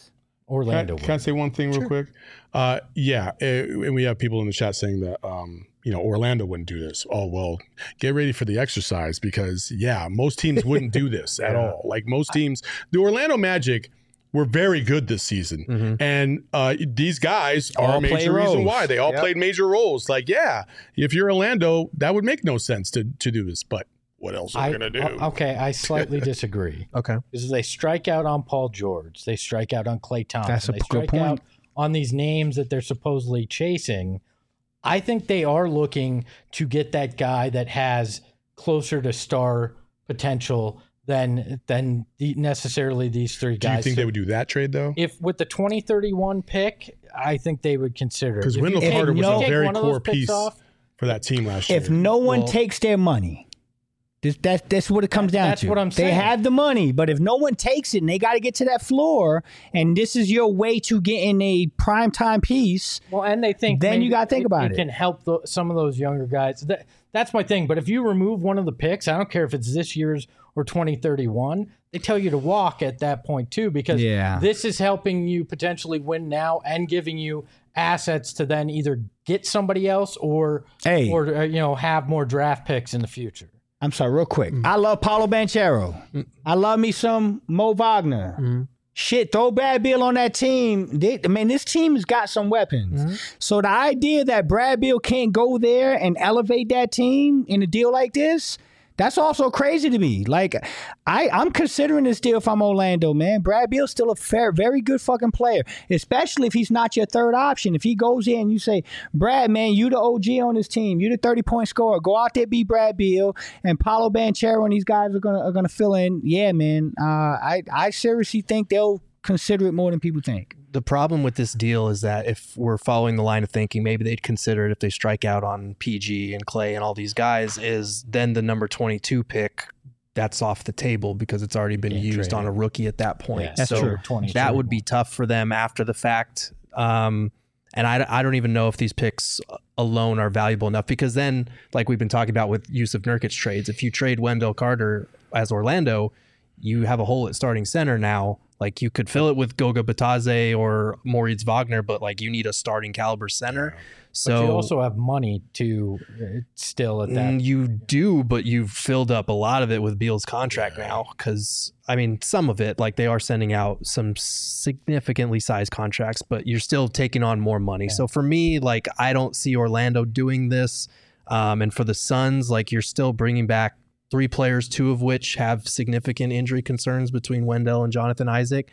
Orlando Can I, can I say one thing real quick? Uh, yeah, eh, and we have people in the chat saying that um, you know Orlando wouldn't do this. Oh well, get ready for the exercise because yeah, most teams wouldn't do this at all. Like most teams, the Orlando Magic were very good this season, Mm-hmm. and uh, these guys are All a major play reason roles. why they all Yep. played major roles. Like yeah, if you're Orlando, that would make no sense to to do this, but. What else are I, we gonna do? o- okay, I slightly disagree. Okay. Because they strike out on Paul George, they strike out on Klay Thompson, That's a they good strike point. out on these names that they're supposedly chasing. I think they are looking to get that guy that has closer to star potential than than the, necessarily these three do guys. you think So they would do that trade though? if with the twenty thirty-one pick, I think they would consider it. Because If you- Wendell if you Carter was no- a take very one of those core picks piece off, for that team last year. If no one Well- takes their money, this, that's that's what it comes That- down that's to. what I'm They saying. have the money, but if no one takes it and they got to get to that floor, and this is your way to get in a primetime piece, well, and they think Then you maybe gotta think about it it. can help the, some of those younger guys. That, that's my thing. But if you remove one of the picks, I don't care if it's this year's or twenty thirty-one, they tell you to walk at that point too, because Yeah. this is helping you potentially win now and giving you assets to then either get somebody else or Hey. or uh, you know have more draft picks in the future. I'm sorry, real quick. Mm. I love Paulo Banchero. I love me some Mo Wagner. Mm. Shit, throw Brad Beal on that team. They, I mean, this team's got some weapons. Mm-hmm. So the idea that Brad Beal can't go there and elevate that team in a deal like this, that's also crazy to me. Like, I, I'm considering this deal if I'm Orlando, man. Brad Beal's still a fair, very good fucking player, especially if he's not your third option. If he goes in and you say, Brad, man, you the O G on this team. You the thirty-point scorer. Go out there, be Brad Beal, and Paulo Banchero and these guys are gonna are gonna fill in. Yeah, man. Uh, I I seriously think they'll consider it more than people think. The problem with this deal is that if we're following the line of thinking, maybe they'd consider it if they strike out on P G and Klay and all these guys, is then the number twenty-two pick, that's off the table because it's already been Yeah, used trade on it. a rookie at that point. Yeah, That's so true. twenty-two. that would be tough for them after the fact. Um, and I, I don't even know if these picks alone are valuable enough because then, like we've been talking about with Yusuf Nurkic trades, if you trade Wendell Carter as Orlando, you have a hole at starting center now. Like you could fill it with Goga Batadze or Moritz Wagner, but like you need a starting caliber center. So But you also have money to uh, still at that. Mm, you do, but you've filled up a lot of it with Beal's contract now. Because I mean, some of it, like they are sending out some significantly sized contracts, but you're still taking on more money. So for me, like I don't see Orlando doing this. Um, and for the Suns, like you're still bringing back three players, two of which have significant injury concerns between Wendell and Jonathan Isaac.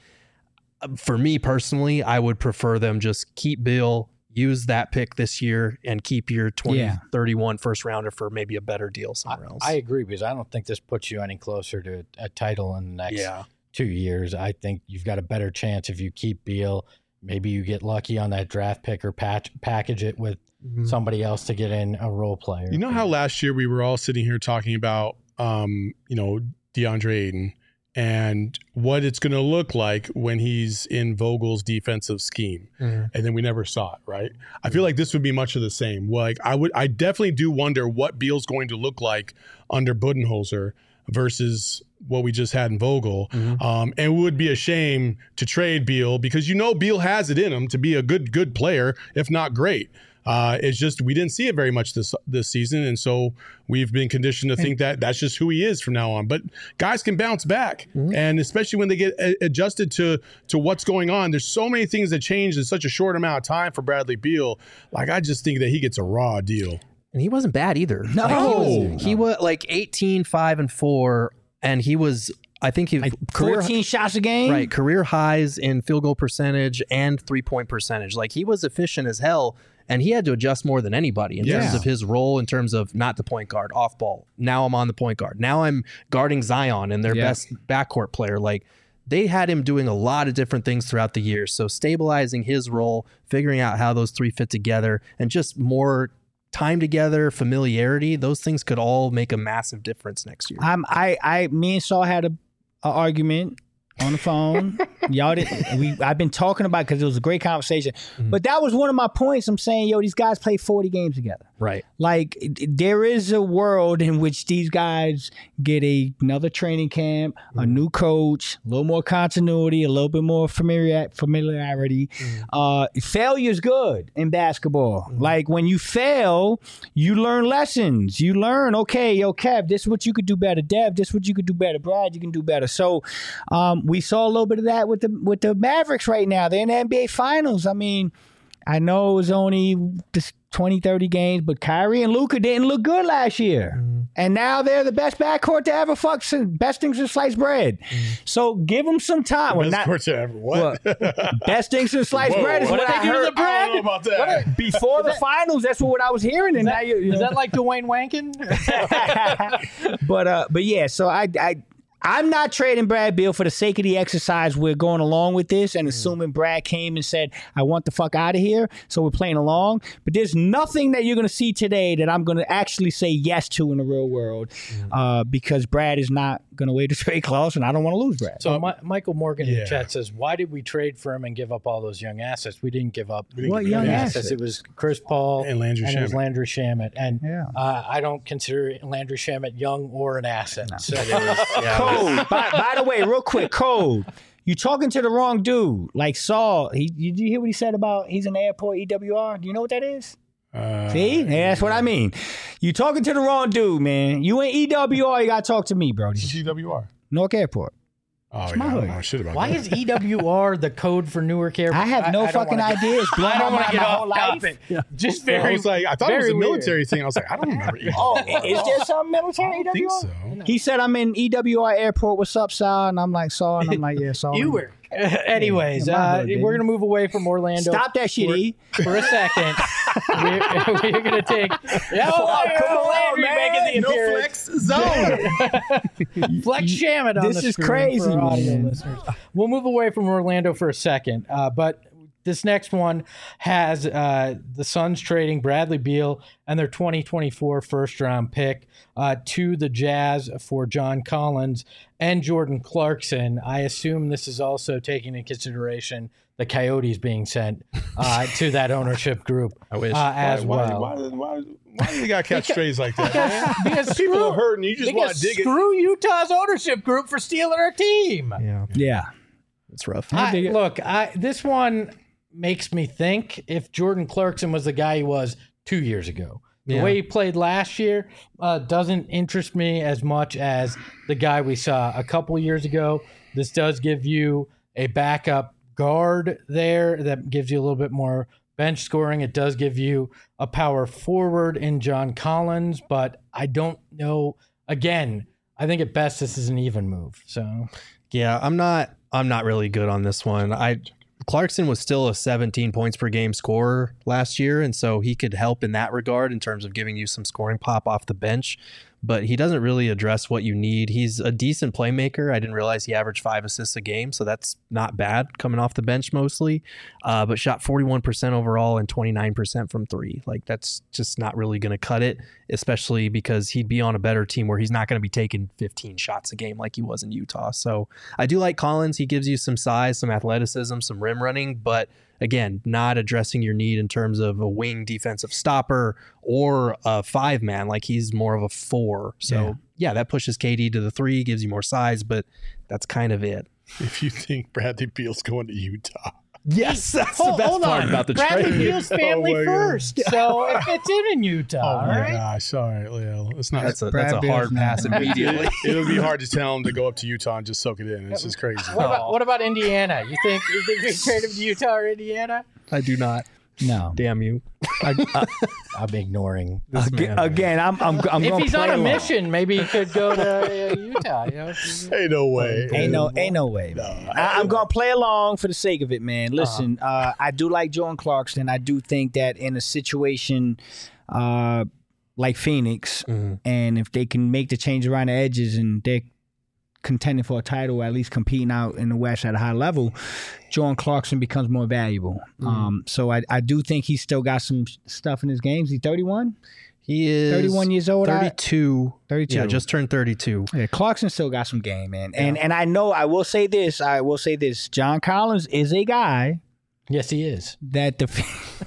For me personally, I would prefer them just keep Bill, use that pick this year, and keep your twenty Yeah. thirty-one first rounder for maybe a better deal I, somewhere else. I agree because I don't think this puts you any closer to a, a title in the next yeah. two years. I think you've got a better chance if you keep Beal. Maybe you get lucky on that draft pick or patch, package it with Mhm. somebody else to get in a role player. You know how last year we were all sitting here talking about, um, you know, DeAndre Ayton and what it's going to look like when he's in Vogel's defensive scheme. Mhm. And then we never saw it, right? I feel like this would be much of the same. Like I would, I definitely do wonder what Beal's going to look like under Budenholzer versus what we just had in Vogel. Mhm. Um, and it would be a shame to trade Beal because you know Beal has it in him to be a good, good player, if not great. Uh, it's just we didn't see it very much this this season, and so we've been conditioned to think that that's just who he is from now on. But guys can bounce back, Mhm. and especially when they get a- adjusted to to what's going on. There's so many things that change in such a short amount of time for Bradley Beal. Like I just think that he gets a raw deal. And he wasn't bad either. No. Like, he was, No. he was like eighteen, five, and four, and he was, I think he Like career fourteen shots a game. right career highs in field goal percentage and three point percentage. Like he was efficient as hell, and he had to adjust more than anybody in Yeah. terms of his role, in terms of not the point guard, off ball. Now I'm on the point guard. Now I'm guarding Zion and their Yeah. best backcourt player. Like they had him doing a lot of different things throughout the year. So stabilizing his role, figuring out how those three fit together, and just more time together, familiarity, those things could all make a massive difference next year. I'm, I, I, me and Saul had a, a argument on the phone. Y'all didn't. We I've been talking about because it was a great conversation. Mm-hmm. But that was one of my points. I'm saying, yo, these guys play forty games together. Right. Like there is a world in which these guys get a, another training camp, mm-hmm. a new coach, a little more continuity, a little bit more familiar, familiarity. Mm-hmm. Uh, failure is good in basketball. Mm-hmm. Like when you fail, you learn lessons. You learn, okay, yo, Kev, this is what you could do better. Dev, this is what you could do better. Brad, you can do better. So um, we saw a little bit of that with the with the Mavericks right now. They're in the N B A Finals. I mean, I know it was only twenty, thirty games, but Kyrie and Luka didn't look good last year. Mm-hmm. And now they're the best backcourt to ever fuck, best things since sliced bread. Mm-hmm. So give them some time. Best not, court to ever what? what? Best things since sliced bread is what, what did I they do heard. to the bread? I don't know about that. Before the finals, that's what I was hearing. And is now that, you, you is know. that like Dwayne Wankin? but uh, but yeah, so I I. I'm not trading Brad Beal for the sake of the exercise. We're going along with this and assuming Brad came and said, I want the fuck out of here. So we're playing along. But there's nothing that you're going to see today that I'm going to actually say yes to in the real world uh, because Brad is not going to wait to trade clause and I don't want to lose Brad. So uh, Michael Morgan in yeah. the chat says, why did we trade for him and give up all those young assets? We didn't give up didn't what give young assets. assets? It was Chris Paul and Landry and Shamet. it was Landry Shamet. And Yeah. uh, I don't consider Landry Shamet young or an asset. No. So it was, yeah, Code. by, by the way, real quick, Code. You talking to the wrong dude. Like Saul, he, did you hear what he said about he's in the airport E W R? Do you know what that is? Uh, See? Yeah, that's what I mean. You talking to the wrong dude, man. You ain't E W R, you got to talk to me, bro. G W R. Newark Airport. Oh, yeah, my I hood. don't know shit about why that. is E W R the code for Newark Airport? I have no I, I fucking wanna idea. It's blown I don't my want to mind get my off whole life. topic. Just I very, was like, I thought it was very a military thing. I was like, I don't remember. E W R. Oh, is there some military I don't think E W R? so. He said, I'm in E W R Airport. What's up, Saul? And I'm like, Saul. And I'm like, yeah, Saul. You were. Anyways, Yeah, my uh, hood, baby. we're going to move away from Orlando. Stop that shit, for, E. for a second. we're we're going to take. Yeah, Oh, come on, Landry man. making the No appearance. flex zone. Flex Shamet on This the is screen crazy, for audio man. listeners. We'll move away from Orlando for a second, uh, but this next one has uh, the Suns trading Bradley Beal and their twenty twenty-four first round pick uh, to the Jazz for John Collins and Jordan Clarkson. I assume this is also taking into consideration the Coyotes being sent uh, to that ownership group I wish. uh, as why, well. Why, why, why, why do you got to catch strays like that? man? Because People screw- are hurting. You just want because to dig it. screw Utah's ownership group for stealing our team. Yeah, Yeah. it's rough. I, dig it. look, I, this one makes me think if Jordan Clarkson was the guy he was two years ago. The Yeah. way he played last year uh, doesn't interest me as much as the guy we saw a couple years ago. This does give you a backup guard there that gives you a little bit more bench scoring. It does give you a power forward in John Collins, but I don't know. Again, I think at best this is an even move. So Yeah, I'm not. I'm not really good on this one. I Clarkson was still a seventeen points per game scorer last year, and so he could help in that regard in terms of giving you some scoring pop off the bench. But he doesn't really address what you need. He's a decent playmaker. I didn't realize he averaged five assists a game, so that's not bad coming off the bench mostly. Uh, but shot forty-one percent overall and twenty-nine percent from three. Like that's just not really going to cut it, especially because he'd be on a better team where he's not going to be taking fifteen shots a game like he was in Utah. So I do like Collins. He gives you some size, some athleticism, some rim running, but again, not addressing your need in terms of a wing defensive stopper or a five man. Like he's more of a four. So yeah, yeah that pushes K D to the three, gives you more size, but that's kind of it. If you think Bradley Beal's going to Utah. Yes, that's hold, the best hold part on. about the Bradley trade. Beal's family Oh my God. first, so it fits in in Utah. Oh all my right. gosh! All right, Leo. It's not. That's a Brad that's a Beal's hard not- pass immediately. it would be hard to tell him to go up to Utah and just soak it in. It's just crazy. What about what about Indiana? You think you think we trade him to Utah or Indiana? I do not. No. Damn you. I'm ignoring. This Again, man. again, I'm I'm I'm If going he's play on a along. mission, maybe he could go to uh, Utah. You know? Ain't no way. Ain't no, ain't no way, man. I, I'm gonna play along for the sake of it, man. Listen, uh, I do like Jordan Clarkson. I do think that in a situation uh, like Phoenix, Mhm. and if they can make the change around the edges and they're contending for a title, or at least competing out in the West at a high level, Jordan Clarkson becomes more valuable. Um, so I, I do think he's still got some stuff in his games. He's thirty-one. He is thirty-one years old. I- thirty-two. thirty-two. Yeah, just turned thirty-two. Yeah, Clarkson still got some game, man. And and I know I will say this. I will say this. John Collins is a guy Yes, he is. that the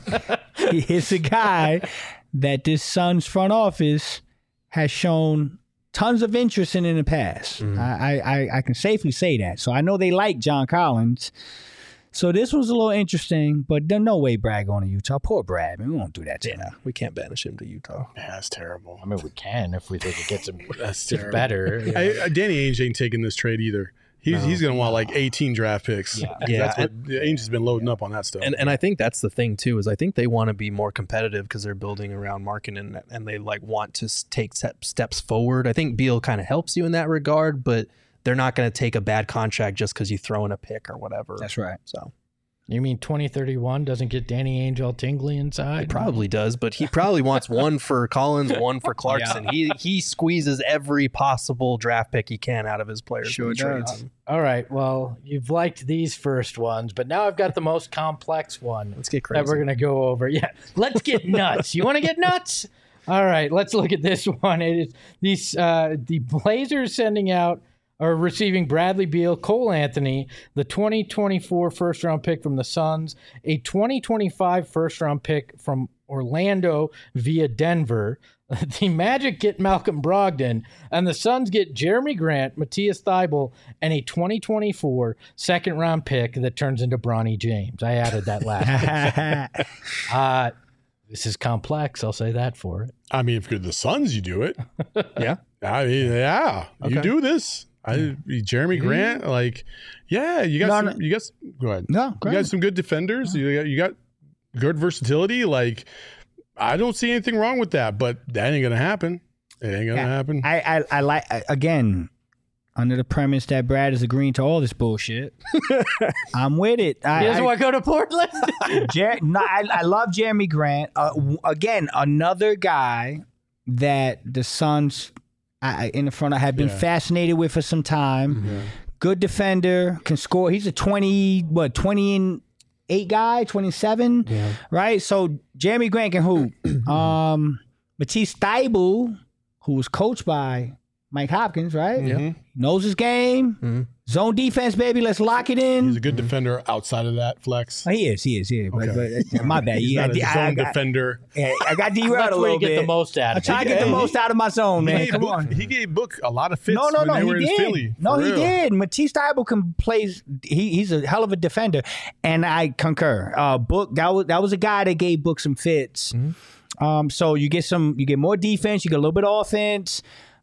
he is a guy that this Suns front office has shown tons of interest in in the past. Mhm. I, I I can safely say that. So I know they like John Collins. So this was a little interesting, but there's no way Brad going to Utah. Poor Brad, man. We won't do that to him. Yeah, we can't banish him to Utah. Yeah, that's terrible. I mean, we can if we think it gets him That's gets terrible. better. you know. I, I, Danny Ainge ain't taking this trade either. He's No. he's gonna want like eighteen draft picks. Yeah. Yeah, that's what Ainge has been loading up on that stuff. And and I think that's the thing too is I think they want to be more competitive because they're building around marketing and, and they like want to s- take step, steps forward. I think Beal kind of helps you in that regard, but they're not going to take a bad contract just because you throw in a pick or whatever. That's right. So You mean twenty thirty-one doesn't get Danny Ainge all tingly inside? it probably does, but he probably wants one for Collins, one for Clarkson. He he squeezes every possible draft pick he can out of his players. Sure when he trades does. them. All right. Well, you've liked these first ones, but now I've got the most complex one Let's get that crazy. we're going to go over. Yeah. Let's get nuts. You want to get nuts? All right. Let's look at this one. It is these uh, the Blazers sending out or receiving Bradley Beal, Cole Anthony, the twenty twenty-four first round pick from the Suns, a twenty twenty-five first round pick from Orlando via Denver. The Magic get Malcolm Brogdon, and the Suns get Jeremy Grant, Matthias Thybulle, and a twenty twenty-four second round pick that turns into Bronny James. I added that last pick. Uh, this is complex. I'll say that for it. I mean, if you're the Suns, you do it. Yeah. I mean, yeah, you Okay. do this. I Jeremy Grant, like, yeah, you got No, some, no. you got s- go ahead. No, You great. got some good defenders. You got you got good versatility. Like, I don't see anything wrong with that, but that ain't gonna happen. It ain't gonna Yeah. happen. I, I, I like I- again under the premise that Brad is agreeing to all this bullshit. I'm with it. I, He doesn't I, want to go to Portland? Jer- no, I, I love Jeremy Grant. Uh, w- again, another guy that the Suns I, I- in the front I have been Yeah. fascinated with for some time. Yeah. Good defender, can score. He's a twenty what twenty and eight guy, twenty seven, Yeah. right? So Jeremy Grant can hoop. um, Matisse Thybulle, who was coached by Mike Hopkins, right? Mhm. Knows his game. Mhm. Zone defense, baby. Let's lock it in. He's a good defender outside of that flex. Oh, he is, he is, he is. But, Okay. but, uh, my bad. He's Yeah, not a I, zone I, got, defender. yeah, I got derailed That's a where little you get bit. the most out I of try to it. get the He- most out of my zone, He man. gave, Come Book, on. he gave Book a lot of fits No, no, when no, they were he in did. Philly. No, for he real. did. Matisse Thybulle can play. He, he's a hell of a defender, and I concur. Uh, Book that was that was a guy that gave Book some fits. Um, so you get some, you get more defense, you get a little bit of offense.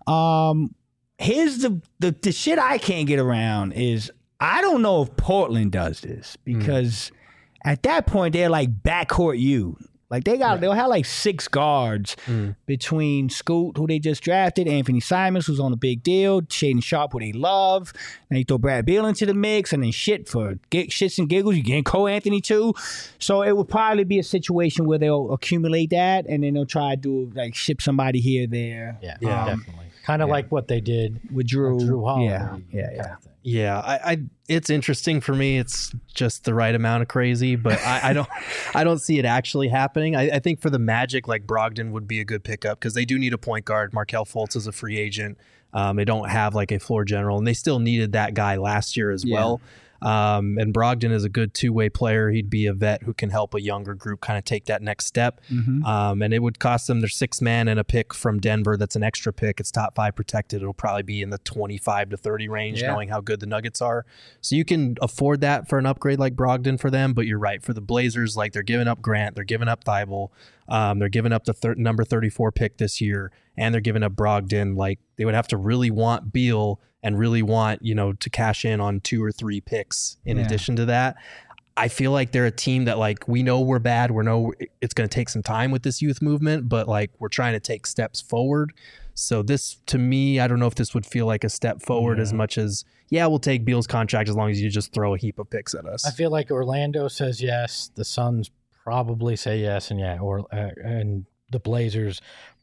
Um, here's the the the shit I can't get around is I don't know if Portland does this because at that point they're like backcourt you. Like they got, they'll have like six guards between Scoot, who they just drafted, Anthony Simons, who's on a big deal, Shaden Sharp, who they love. And you throw Brad Beal into the mix, and then shit for g- shits and giggles, you get Cole Anthony too. So it would probably be a situation where they'll accumulate that, and then they'll try to do like ship somebody here, there. Yeah, Yeah. definitely. Kind of like what they did With Drew, with Drew Holiday. yeah, yeah, kind yeah. of thing. Yeah, I, I it's interesting for me. It's just the right amount of crazy, but I, I don't I don't see it actually happening. I, I think for the Magic, like Brogdon would be a good pickup because they do need a point guard. Markelle Fultz is a free agent. Um, they don't have like a floor general, and they still needed that guy last year as Yeah. well. Um, and Brogdon is a good two-way player. He'd be a vet who can help a younger group kind of take that next step. Mhm. Um, and it would cost them their six man and a pick from Denver. That's an extra pick. It's top five protected. It'll probably be in the twenty-five to thirty range, Yeah. knowing how good the Nuggets are. So you can afford that for an upgrade like Brogdon for them. But you're right, for the Blazers, like they're giving up Grant, they're giving up Thybulle, um, they're giving up the thir- number thirty-four pick this year, and they're giving up Brogdon. Like they would have to really want Beal and really want, you know, to cash in on two or three picks in Yeah. addition to that. I feel like they're a team that like we know we're bad. We know it's going to take some time with this youth movement, but like we're trying to take steps forward. So this, to me, I don't know if this would feel like a step forward as Yeah. much as, yeah, we'll take Beal's contract as long as you just throw a heap of picks at us. I feel like Orlando says yes. The Suns probably say yes, and yeah, or uh, and the Blazers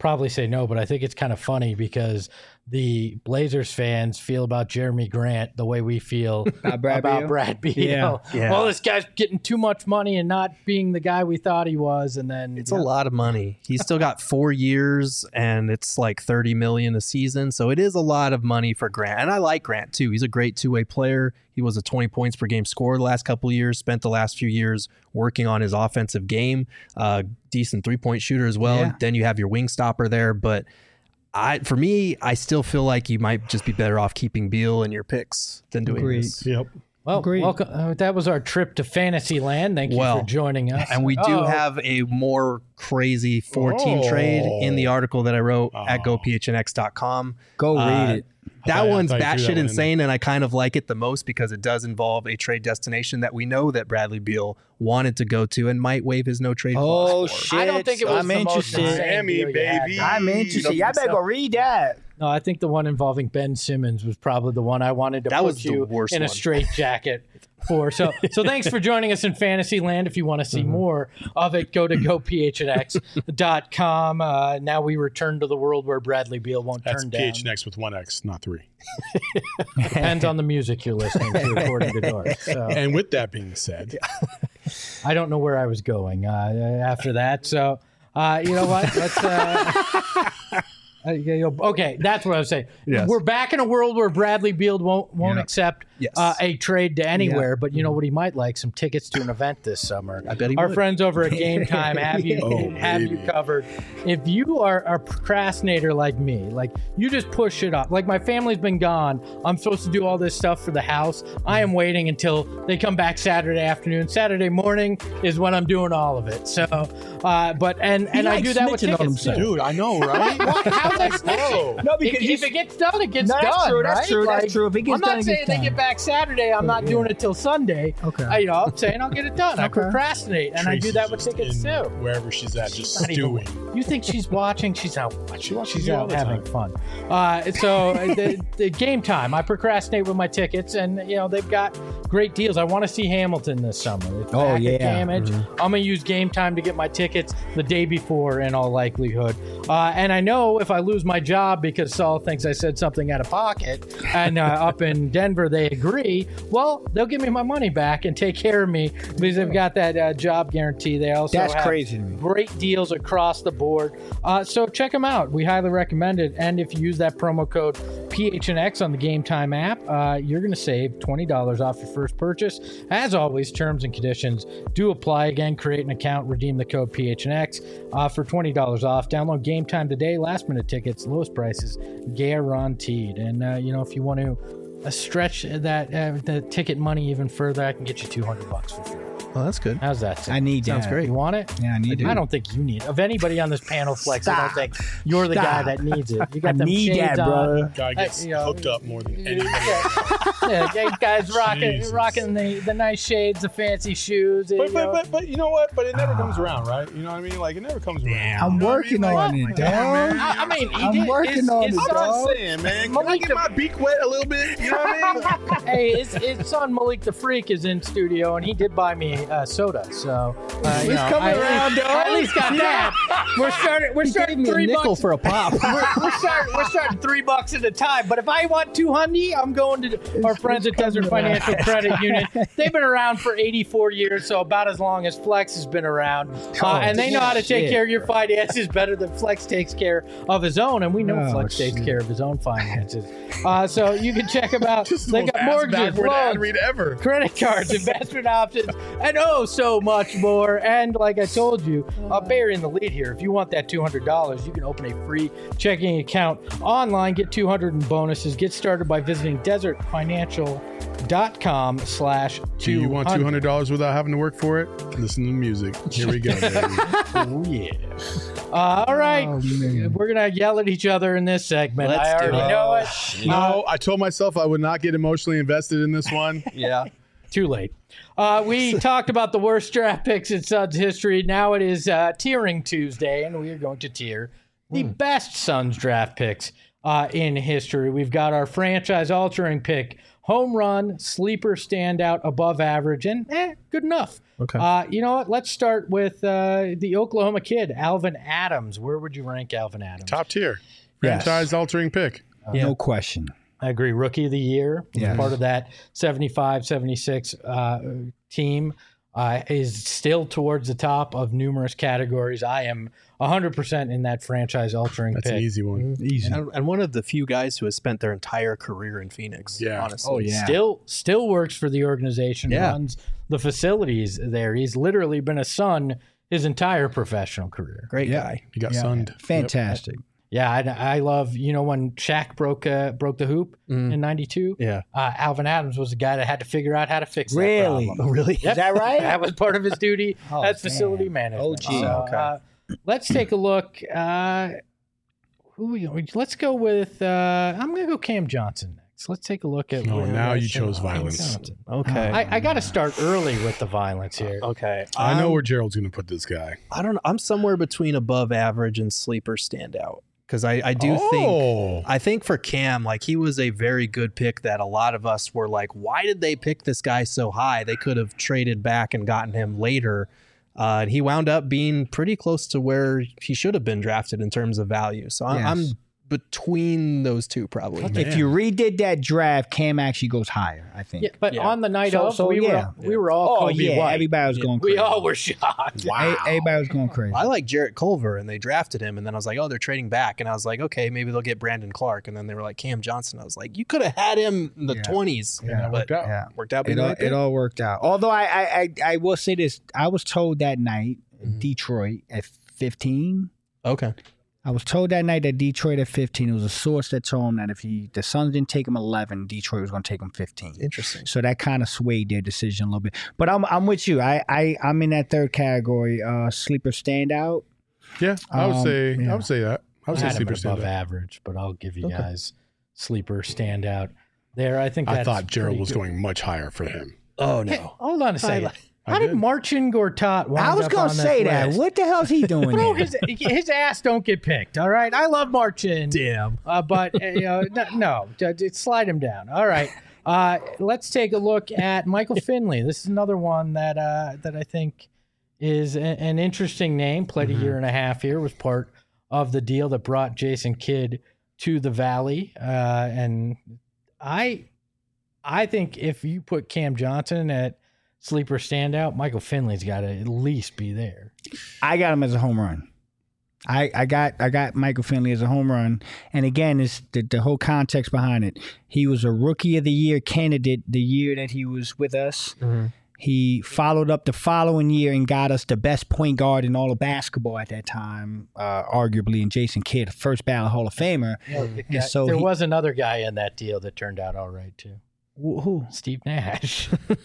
probably say no, but I think it's kind of funny because the Blazers fans feel about Jeremy Grant the way we feel About Brad about Beal? Brad Beal. Yeah. Yeah. Well, this guy's getting too much money and not being the guy we thought he was, and then It's you a know, lot of money. He's still got four years, and it's like thirty million a season. So it is a lot of money for Grant, and I like Grant too. He's a great two way player. He was a twenty points per game scorer the last couple of years. Spent the last few years working on his offensive game. Uh, decent three point shooter as well. Yeah. Then you have your wing stopper there, but. I, for me, I still feel like you might just be better off keeping Beal in your picks than doing Agreed. this. Yep. well, Agreed. welcome. Uh, that was our trip to Fantasyland. Thank you Well, for joining us. And we do Oh, have a more crazy four-team Oh. trade in the article that I wrote at Oh. go p h n x dot com. Go Uh, read it. That thought- I one's thought you threw that batshit one in insane, and I kind of like it the most because it does involve a trade destination that we know that Bradley Beal wanted to go to and might waive his no trade Oh, clause for. shit. I don't think it was I'm the most interested. insane Miami, deal you had. baby. I'm interested. Y'all better go read that. No, I think the one involving Ben Simmons was probably the one I wanted to That put was the you worst in a one. straight jacket for. So, so thanks for joining us in Fantasyland. If you want to see Mm-hmm. more of it, go to go p h n x dot com. Uh, now we return to the world where Bradley Beal won't That's turn down. P H N X with one X, not three. Depends on the music you're listening to, according to Doris. So And with that being said, I don't know where I was going uh, after that. So uh, you know what? Let's. Uh, Uh, yeah, you know, okay, that's what I was saying. Yes. We're back in a world where Bradley Beal won't won't Yeah. accept Yes. uh, a trade to anywhere, but you know what he might like? Some tickets to an event this summer. I bet he Our would. friends over at Game Time have you Oh, have you baby. covered. If you are a procrastinator like me, like you just push it off. Like my family's been gone. I'm supposed to do all this stuff for the house. I am waiting until they come back Saturday afternoon. Saturday morning is when I'm doing all of it. So, uh, but and and I likes do that with snitching on tickets too. dude, I know, right? How's that snitching? No, If, because if it gets done, it gets No, done. that's true, that's right? true, that's Like, true. If it gets I'm done, not it saying gets they done. get back Saturday. I'm not doing it till Sunday. Okay. I, you know, I'm saying I'll get it done. I Okay. procrastinate, and I do Tracy's that with just tickets in too. Wherever she's at, just Not even- stewing. You think she's watching? She's out watching. She watches She's you all out the having time. fun. Uh, so uh, the, the game time. I procrastinate with my tickets, and you know they've got great deals. I want to see Hamilton this summer. It's Oh, back at yeah. Damage. I'm gonna use Game Time to get my tickets the day before, in all likelihood. Uh, and I know if I lose my job because Saul thinks I said something out of pocket, and uh, up in Denver they agree, well, they'll give me my money back and take care of me because they've got that uh, job guarantee. They also That's have crazy to me. great deals across the board. Uh, so check them out. We highly recommend it. And if you use that promo code P H N X on the Game Time app, uh, you're going to save twenty dollars off your first purchase. As always, terms and conditions do apply. Again, create an account, redeem the code P H N X uh, for twenty dollars off. Download Game Time today. Last minute tickets, lowest prices guaranteed. And, uh, you know, if you want to uh, stretch that uh, the ticket money even further, I can get you two hundred bucks for free. Oh, that's good. How's that sound? I need Sounds that. great. You want it? Yeah, I need I it. don't think you need it. Of anybody on this panel, Flex, I don't think you're the Stop. guy that needs it. You I got them need shades that, on. brother. Guy gets Uh, you know, hooked up more than anybody. Yeah, yeah, guys rocking, Jesus. rocking the, the nice shades, the fancy shoes. But, you but, know. but, but you know what? But it never comes around, right? You know what I mean? Like, it never comes around. I'm You know what I working mean? Like, on it, like, dog. man, I, I mean, he I'm did, working it's, on it's it, I'm on- just saying, man. Can I Malik get the- my beak wet a little bit? You know what I mean? Hey, his, his son Malik the Freak is in studio, and he did buy me uh, soda. So uh, you He's know, coming I, around, dog. I at least got that. We're starting. We're He gave starting me a three nickel bucks for a pop. we're, we're starting. We're starting three bucks at a time. But if I want two hundred, I'm going to our friends at Desert Financial Credit Union. They've been around for eighty-four years, so about as long as Flex has been around, uh, Oh, and they know how to take shit. care of your finances better than Flex takes care of his own. And we know Oh, Flex takes shit. care of his own finances. Uh, so you can check them out. Just the They most got ass mortgages, backward ad loans, read ever. credit cards, investment options, and oh, so much more. And like I told you, uh, burying the lead here. If you want that two hundred dollars, you can open a free checking account online, get two hundred in bonuses. Get started by visiting desert financial dot com slash Do you want two hundred dollars without having to work for it? Listen to the music. Here we go, baby. Oh, yeah. Uh, all right. Oh, man. We're going to yell at each other in this segment. Let's I do already it. know it. No, I told myself I would not get emotionally invested in this one. Yeah. Too late. Uh, we talked about the worst draft picks in Suns history. Now it is uh, Tiering Tuesday, and we are going to tier the best Suns draft picks uh, in history. We've got our franchise-altering pick home run, sleeper, standout, above average, and eh, good enough. Okay. Uh, you know what? Let's start with uh, the Oklahoma kid, Alvin Adams. Where would you rank Alvin Adams? Top tier. Yes. Franchise-altering pick. Yeah. No question. I agree. Rookie of the year. Was Yes. part of that seventy-five seventy-six uh, team. Uh, is still towards the top of numerous categories. I am one hundred percent in that franchise-altering That's pick. an easy one. Easy. And, and one of the few guys who has spent their entire career in Phoenix. Yeah. Honestly. Oh, yeah. Still, still works for the organization. Yeah. Runs the facilities there. He's literally been a Sun his entire professional career. Great Yeah. guy. He got Yeah. sunned. Fantastic. Yeah, I, I love you know when Shaq broke uh, broke the hoop Mm. in ninety-two. Yeah. Uh, Alvin Adams was the guy that had to figure out how to fix that Really? problem. Oh, really? Yep. Is that right? That was part of his duty Oh, as facility damn. management. Oh, gee. So, Okay. uh, let's take a look. Uh, who we, let's go with. Uh, I'm going to go Cam Johnson next. Let's take a look at. Oh, where now I you think chose Cam violence. Johnson- Okay. I, I got to start early with the violence here. okay. I know I'm- where Gerald's going to put this guy. I don't know. I'm somewhere between above average and sleeper standout because I, I do think Oh. I think for Cam, like he was a very good pick that a lot of us were like, why did they pick this guy so high? They could have traded back and gotten him later. Uh, and he wound up being pretty close to where he should have been drafted in terms of value. So I'm, Yes. I'm between those two probably. If you redid that draft, Cam actually goes higher, I think. Yeah, but Yeah. on the night So- of, so, we yeah. were we were all Oh, Kobe yeah. White. Everybody was going We crazy. all were shocked. Wow. Everybody was going crazy. I like Jarrett Culver and they drafted him and then I was like, oh, they're trading back. And I was like, okay, maybe they'll get Brandon Clark. And then they were like, Cam Johnson. I was like, you could have had him in the Yeah. tonies. Yeah, it but worked out. Yeah. worked out. being It the all, right pick. it all worked out. Although I, I, I, I will say this. I was told that night, Mhm. Detroit at fifteen. Okay. I was told that night that Detroit at fifteen. It was a source that told him that if he the Suns didn't take him eleven, Detroit was going to take him fifteen. Interesting. So that kind of swayed their decision a little bit. But I'm I'm with you. I, I I'm in that third category. Uh, sleeper standout. Yeah, I would Um, say yeah. I would say that. I I would say had him sleeper at above standout. average, but I'll give you Okay. guys sleeper standout there. I think I that's thought Gerald pretty was good. going much higher for him. Oh Hey, hold on a second. like- How I did did. Marcin Gortat wind I was up going on to this say that. list? What the hell's he doing Bro, there? his his ass don't get picked. All right, I love Marcin. Damn. Uh, but uh, you know, no, no, d- d- slide him down. All right, uh, let's take a look at Michael Finley. This is another one that uh, that I think is a- an interesting name. Played a year and a half here. Was part of the deal that brought Jason Kidd to the Valley, uh, and I I think if you put Cam Johnson at sleeper standout, Michael Finley's got to at least be there. I got him as a home run. I, I got I got Michael Finley as a home run, and again, it's the, the whole context behind it. He was a Rookie of the Year candidate the year that he was with us. Mm-hmm. He followed up the following year and got us the best point guard in all of basketball at that time, uh, arguably, in Jason Kidd, first ballot Hall of Famer. Yeah, so there he- was another guy in that deal that turned out all right too. Wh- Who? Steve Nash.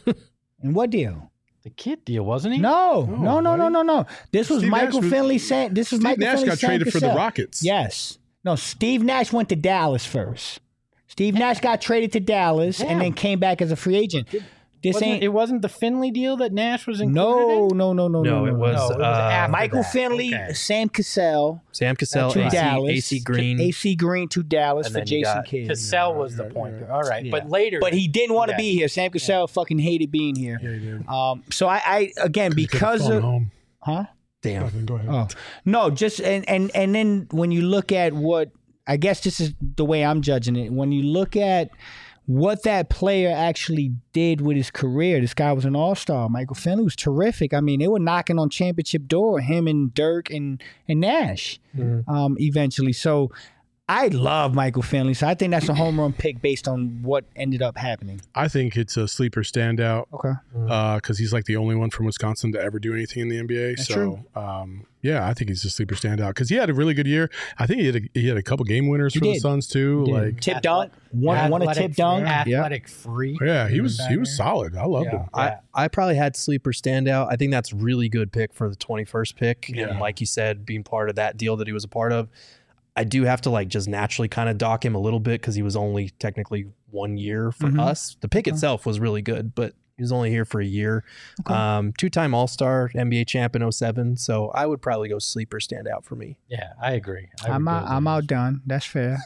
And what deal? The Kid deal, wasn't he? No, no, no, no, no, no. This was Steve Michael Nash was- Finley saying. This was Steve Michael Nash Finley got saying traded for the Cassell. Rockets. Yes. No, Steve Nash went to Dallas first. Steve Nash got traded to Dallas and then came back as a free agent. This Wasn't- ain't it wasn't the Finley deal that Nash was included no, in? no, no, no, No, no. it was, No, it was uh, after Michael that. Finley, Okay. Sam Cassell Sam Cassell, to A C, Dallas, A C Green. A C Green to Dallas And for then you Jason got Kidd. Cassell was the point guard. All right, Yeah. but later. But he didn't want to Yeah. be here. Sam Cassell fucking hated being here. Yeah, he did. Um, so I, I again He could've because flown of home. huh. Damn. Go ahead. Oh no, just and and and then when you look at what I guess this is the way I'm judging it. When you look at what that player actually did with his career, this guy was an all-star. Michael Finley was terrific. I mean, they were knocking on championship door, him and Dirk and and Nash, Mhm. um, eventually. So I love Michael Finley. So I think that's a home run pick based on what ended up happening. I think it's a sleeper standout Okay. because he's like the only one from Wisconsin to ever do anything in the N B A. That's so, true. Um, yeah, I think he's a sleeper standout because he had a really good year. I think he had a, he had a couple game winners He for the did. Suns too. He did. Like, Tip dunk, one, one a Athletic- tip dunk. Yeah. Athletic freak. yeah, he was back he was there. solid. I loved Yeah. him. I, I probably had sleeper standout. I think that's a really good pick for the twenty-first pick. Yeah. And like you said, being part of that deal that he was a part of, I do have to like just naturally kind of dock him a little bit because he was only technically one year for Mhm. us. The pick Okay. itself was really good, but He was only here for a year. Okay. Um, two-time All-Star, N B A champ in oh seven. So I would probably go sleeper standout for me. Yeah, I agree. I I'm would out, go I'm there. outdone. That's fair.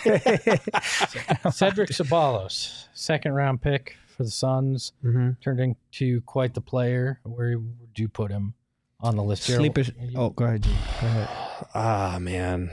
Cedric Ceballos, second round pick for the Suns, Mm-hmm. turned into quite the player. Where would you put him on the list? Gerald? Sleepers. Oh, go ahead, G. Go ahead. Ah, man.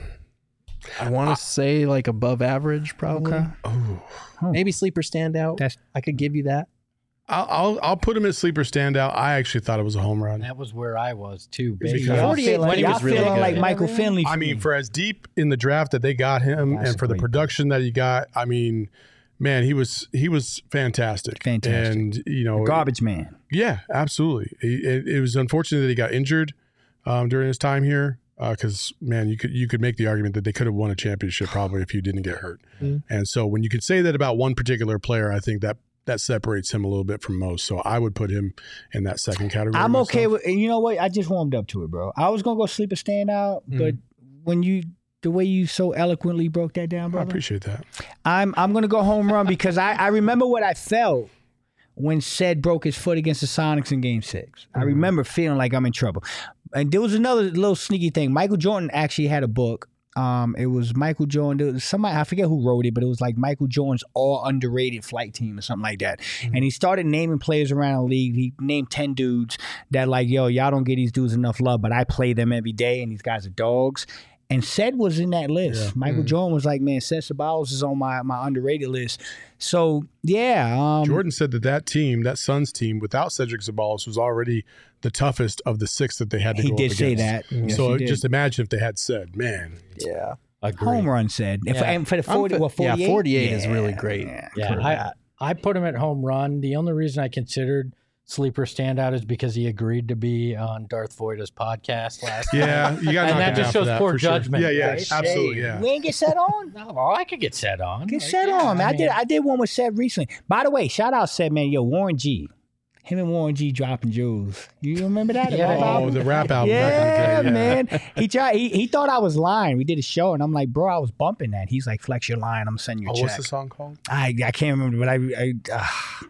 I want to say like above average, probably. Okay. Oh, Maybe sleeper standout. That's I could give you that. I'll, I'll I'll put him as sleeper standout. I actually thought it was a home run. That was where I was too. Because- Basically. y'all forty-eight feeling, when he y'all was really feeling good. like Michael Finley. I mean, for as deep in the draft that they got him, That's and for the great. production that he got, I mean, man, he was he was fantastic. Fantastic. And you know, garbage man. yeah, absolutely. It, it was unfortunate that he got injured um, during his time here. Because uh, man, you could you could make the argument that they could have won a championship probably if he didn't get hurt. Mm. And so when you could say that about one particular player, I think that that separates him a little bit from most. So I would put him in that second category. I'm okay myself. with. And you know what? I just warmed up to it, bro. I was gonna go sleeper standout, Mm. but when you the way you so eloquently broke that down, I brother, appreciate that. I'm I'm gonna go home run because I I remember what I felt when Ced broke his foot against the Sonics in Game Six. I remember feeling like I'm in trouble. And there was another little sneaky thing. Michael Jordan actually had a book. Um, it was Michael Jordan. There was somebody, I forget who wrote it, but it was like Michael Jordan's all underrated flight team or something like that. Mm-hmm. And he started naming players around the league. He named ten dudes that like, yo, y'all don't get these dudes enough love, but I play them every day, and these guys are dogs. And Ced was in that list. Yeah. Michael Mm. Jordan was like, man, Ced Ceballos is on my, my underrated list. So, yeah. Um, Jordan said that that team, that Suns team, without Cedric Ceballos, was already the toughest of the six that they had to he go did up say against. that. Yes, So he did. just imagine if they had said, man, Yeah. Agree. home run Ced. If- Yeah. And for the I'm forty, fi- what, yeah, forty-eight? forty-eight is really great. Yeah. Yeah, for I that. I put him at home run. The only reason I considered sleeper standout is because he agreed to be on Darth Voida's podcast last. yeah, you got And to that just shows poor judgment, Yeah, yeah, right? absolutely, yeah. We ain't get set on? No, well, I could get set on. Get Like, set yeah, on, man. I, mean, did I did one with Seth recently. By the way, shout out Seth, man. Yo, Warren G. Him and Warren G dropping jewels. You remember that? The Yeah, rap yeah, Oh, album? the rap album. Yeah, back in the day, man. He tried. He, he thought I was lying. We did a show, and I'm like, bro, I was bumping that. He's like, flex your line. I'm sending you a Oh, check. what's the song called? I I can't remember, but I I, uh,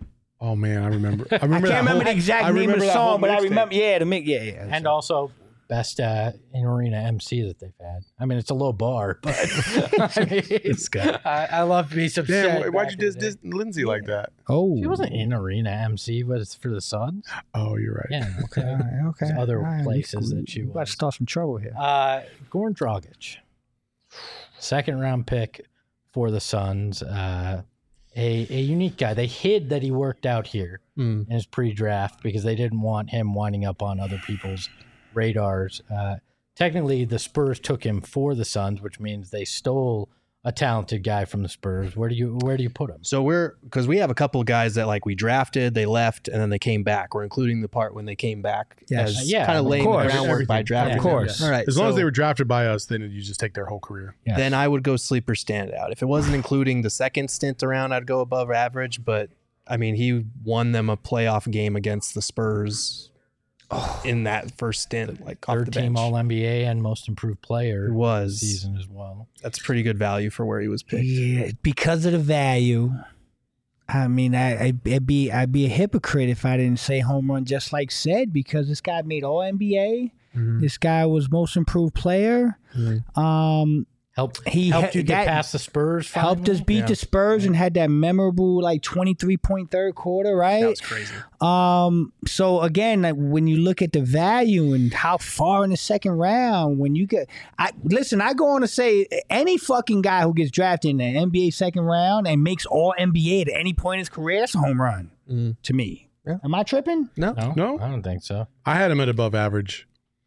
Oh man, I remember. I I remember. can't that remember whole- the exact I name of remember the that whole song, but I mixtape. remember. Yeah, the mix. Yeah, yeah. And So- also best uh, in arena M C that they've had. I mean, it's a low bar, but I mean, This guy. I, I love to be some. Damn, why- why'd you diss, diss Lindsay like that? oh, She wasn't in arena M C, but it's for the Suns. Oh, you're right. Yeah, Okay, okay. all right, okay. There's other All right, we- places that she we about was. to start some trouble here. Uh, Goran Dragic, second round pick for the Suns. Uh, a a unique guy. They hid that he worked out here Mm. in his pre-draft because they didn't want him winding up on other people's radars. Uh, technically, the Spurs took him for the Suns, which means they stole a talented guy from the Spurs. Where do you where do you put him? So we're because we have a couple of guys that like we drafted, they left, and then they came back. We're including the part when they came back Yes. as Yeah, kind of of laying course. the groundwork by Everything. drafting. Of course. them. All right. As long as so they were drafted by us, then you just take their whole career. Yes. then I would go sleeper standout. If it wasn't including the second stint around, I'd go above average. But I mean, he won them a playoff game against the Spurs in that first stint, like off Third the team bench. All N B A and most improved player It was. season as well. That's pretty good value for where he was picked. Yeah, because of the value. I mean, I, I, I'd be I'd be a hypocrite if I didn't say home run just like Ced, because this guy made All N B A. Mhm. This guy was most improved player. Mhm. Um, Helped He helped ha- you get that past the Spurs. helped us finally? beat Yeah. the Spurs and had that memorable like twenty-three point third quarter, That right? was crazy. Um, so again, like when you look at the value and how far in the second round, when you get, I listen, I go on to say any fucking guy who gets drafted in the N B A second round and makes All N B A at any point in his career, that's a home run Mm. to me. Yeah. Am I tripping? No. No, No? I don't think so. I had him at above average.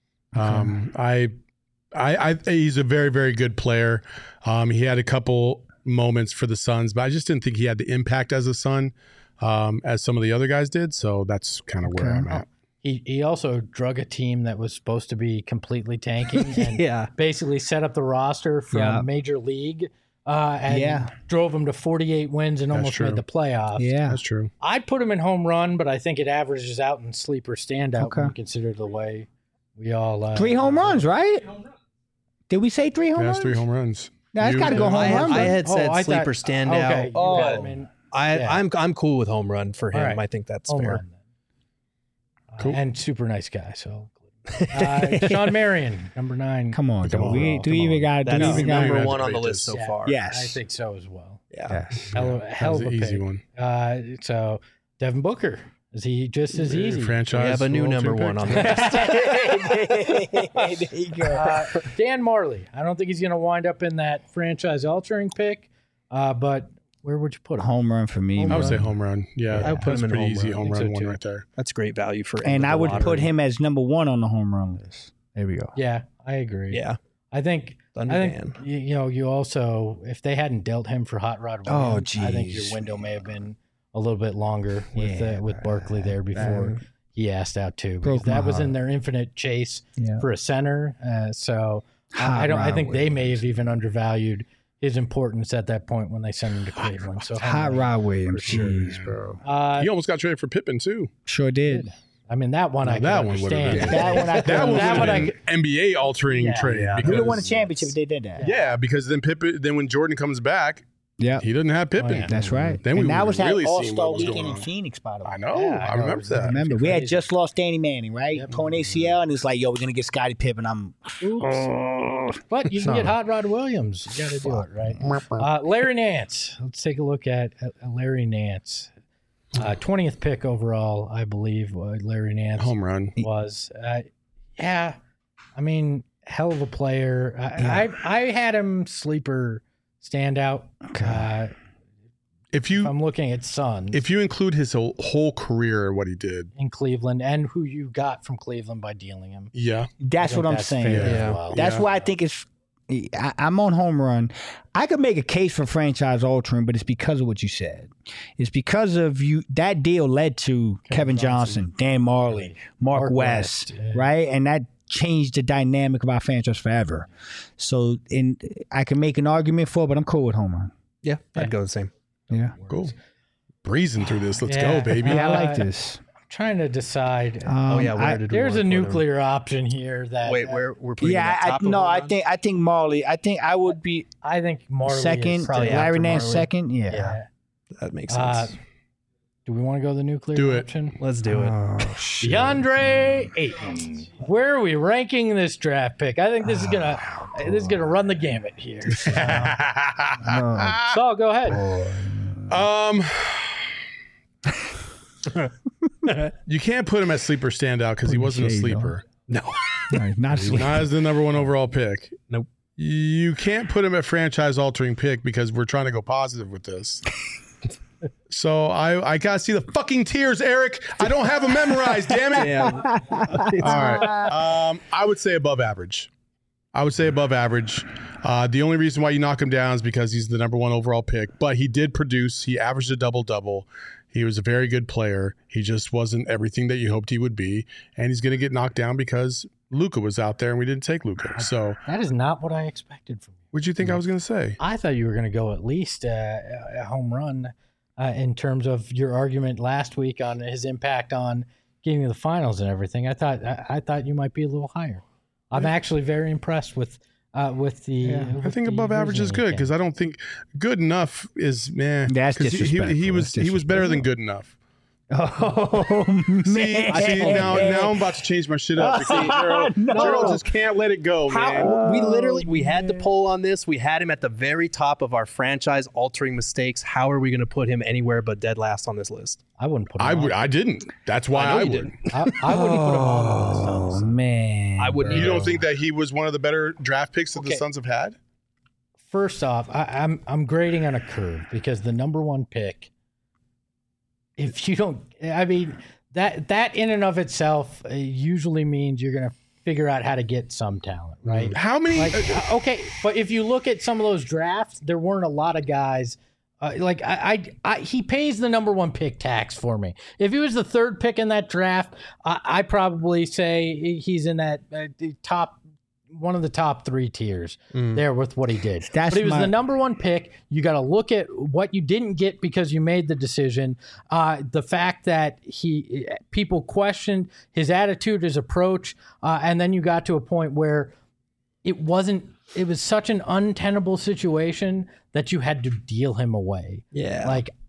Um, I, I, I, he's a very, very good player. Um, he had a couple moments for the Suns, but I just didn't think he had the impact as a Sun um, as some of the other guys did. So that's kind of where Okay. I'm at. He he also drug a team that was supposed to be completely tanking and Yeah. basically set up the roster from Yeah. Major League uh, and Yeah. drove them to forty-eight wins and That's almost true. made the playoffs. Yeah. That's true. I'd put him in home run, but I think it averages out in sleeper standout Okay. when you consider the way we all uh, Three home runs, right? Did we say three home Yeah, runs? that's three home runs. No, it's You- got to go yeah. home I, run. I bro. had Oh, said I sleeper thought- standout. Okay, you Oh. had him in- I, Yeah. I'm I'm cool with home run for him. All right. I think that's Home fair. run, then. Uh, Cool. and super nice guy. So, uh, Sean Marion, number nine. Come on, Come do we on, do come we even on. got do That's we No, even no, got you number have to one on the debate list this. so Yeah. far. Yes. I think so as well. Yeah. Yes. Hell, of- That hell was of a an easy pick. one. Uh, so Devin Booker, is he just as easy? Franchise. We have a new all number three one on picks. the list. There you go. Uh, Dan Marley. I don't think he's going to wind up in that franchise-altering pick, uh, but where would you put him? Home run for me. I would man. say home run. Yeah, I would put that's him in pretty home easy run. I home think run so, one too. right there. That's great value for. And the I would lottery. put him as number one on the home run list. There we go. Yeah, I agree. Yeah. I think. Thunder I Dan. think you, you know. You also, if they hadn't dealt him for Hot Rod Oh, Williams, I think your geez. window may have been a little bit longer with Yeah, uh, with Barkley there before he asked out too. Because Broke my that was in heart. their infinite chase Yeah. for a center. Uh, so I- Hot I don't. I Rod think they may Williams. have even undervalued his importance at that point when they sent him to Cleveland. So Hot Rod Williams. For sure. Jeez, bro. Uh, He almost got traded for Pippen too. Sure did. I mean, that one I Now, that could one would've understand. been- That one I could. That one that would one I have could. been N B A altering Yeah, trade. yeah. because, We won a championship if they did that. Yeah, because then Pippen, then when Jordan comes back, Yeah. he doesn't have Pippen. Oh, yeah. That's right. Then we and that would've was that really seen All-Star what was weekend going in on. Phoenix, by the way. I know. Yeah, I I know. remember that. Remember, we had Crazy. just lost Danny Manning, right? Yep. Torn A C L, and it's like, yo, we're gonna get Scottie Pippen. I'm But you can get Hot Rod Williams. You got to do it, right? Uh, Larry Nance. Let's take a look at, at Larry Nance. Uh, twentieth pick overall, I believe. Uh, Larry Nance Home run. was. Uh, yeah, I mean, hell of a player. I, I I had him sleeper standout. Uh, If if you I'm looking at Suns if you include his whole, whole career, what he did, in Cleveland and who you got from Cleveland by dealing him. yeah, That's I think what I'm that's saying. fair as Yeah. well. That's Yeah. why I think it's. I, I'm on home run. I could make a case for franchise altering, but it's because of what you said. It's because of you. That deal led to Kevin, Johnson, Dan Marley, Mark, Mark West, West, yeah. right? And that changed the dynamic of our franchise forever. So, in I can make an argument for it, but I'm cool with home run. Yeah, Yeah. I'd go the same. Yeah, cool. Breezing through this. Let's Yeah. go, baby. yeah, I Uh, like this. Trying to decide. Um, oh yeah, where I- did we There's a wanna put him? nuclear option here that Wait, uh, where we're putting him yeah, at I, top of no, home I run? think I think Marley. I think I would be I think Marley second. is probably Larry after Nance Marley. second. Yeah. Yeah. that makes Uh, sense. do we want to go the nuclear Do it. option? Let's do it. Oh, shit. DeAndre Ayton. Where are we ranking this draft pick? I think this is gonna this is gonna run the gamut here. Oh, So go ahead. Um, you can't put him as sleeper standout because he Put wasn't a shade, sleeper. no, not He's not as the number one overall pick. Nope. You can't put him at franchise altering pick because we're trying to go positive with this. So I I gotta see the fucking tears, Eric. I don't have them memorized. Damn it. Yeah. All right. Um, I would say above average. I would say above average. Uh, the only reason why you knock him down is because he's the number one overall pick. But he did produce. He averaged a double double. He was a very good player. He just wasn't everything that you hoped he would be. And he's going to get knocked down because Luka was out there and we didn't take Luka. So That is not what I expected from you. what'd you think I was going to say? I thought you were going to go at least uh, a home run uh, in terms of your argument last week on his impact on getting to the finals and everything. I thought I, I thought you might be a little higher. I'm actually very impressed with uh, with the. I with think the above average is reasoning good you because I don't think good enough is man. That's 'cause he, he, disrespectful. he was That's he was better than good enough. Oh man! See, see now now I'm about to change my shit up because Gerald, No. Gerald just can't let it go, man. How, we literally we had the poll on this. We had him at the very top of our franchise altering mistakes. How are we going to put him anywhere but dead last on this list? I wouldn't put him I on. would I didn't. That's why I know I, you would. didn't. I, I wouldn't put him on the list. Oh honestly. man! I wouldn't You either. don't think that he was one of the better draft picks that Okay. the Suns have had? First off, I, I'm I'm grading on a curve because the number one pick. If you don't, I mean that that in and of itself uh, usually means you're going to figure out how to get some talent, right? How many? Like, uh, okay, but if you look at some of those drafts, there weren't a lot of guys. Uh, like I, I, I, he pays the number one pick tax for me. If he was the third pick in that draft, I, I probably say he's in that uh, the top, one of the top three tiers there with what he did. That's but he was my- the number one pick. You got to look at what you didn't get because you made the decision. Uh, the fact that he, people questioned his attitude, his approach, uh, and then you got to a point where it wasn't. It was such an untenable situation that you had to deal him away. Yeah. Like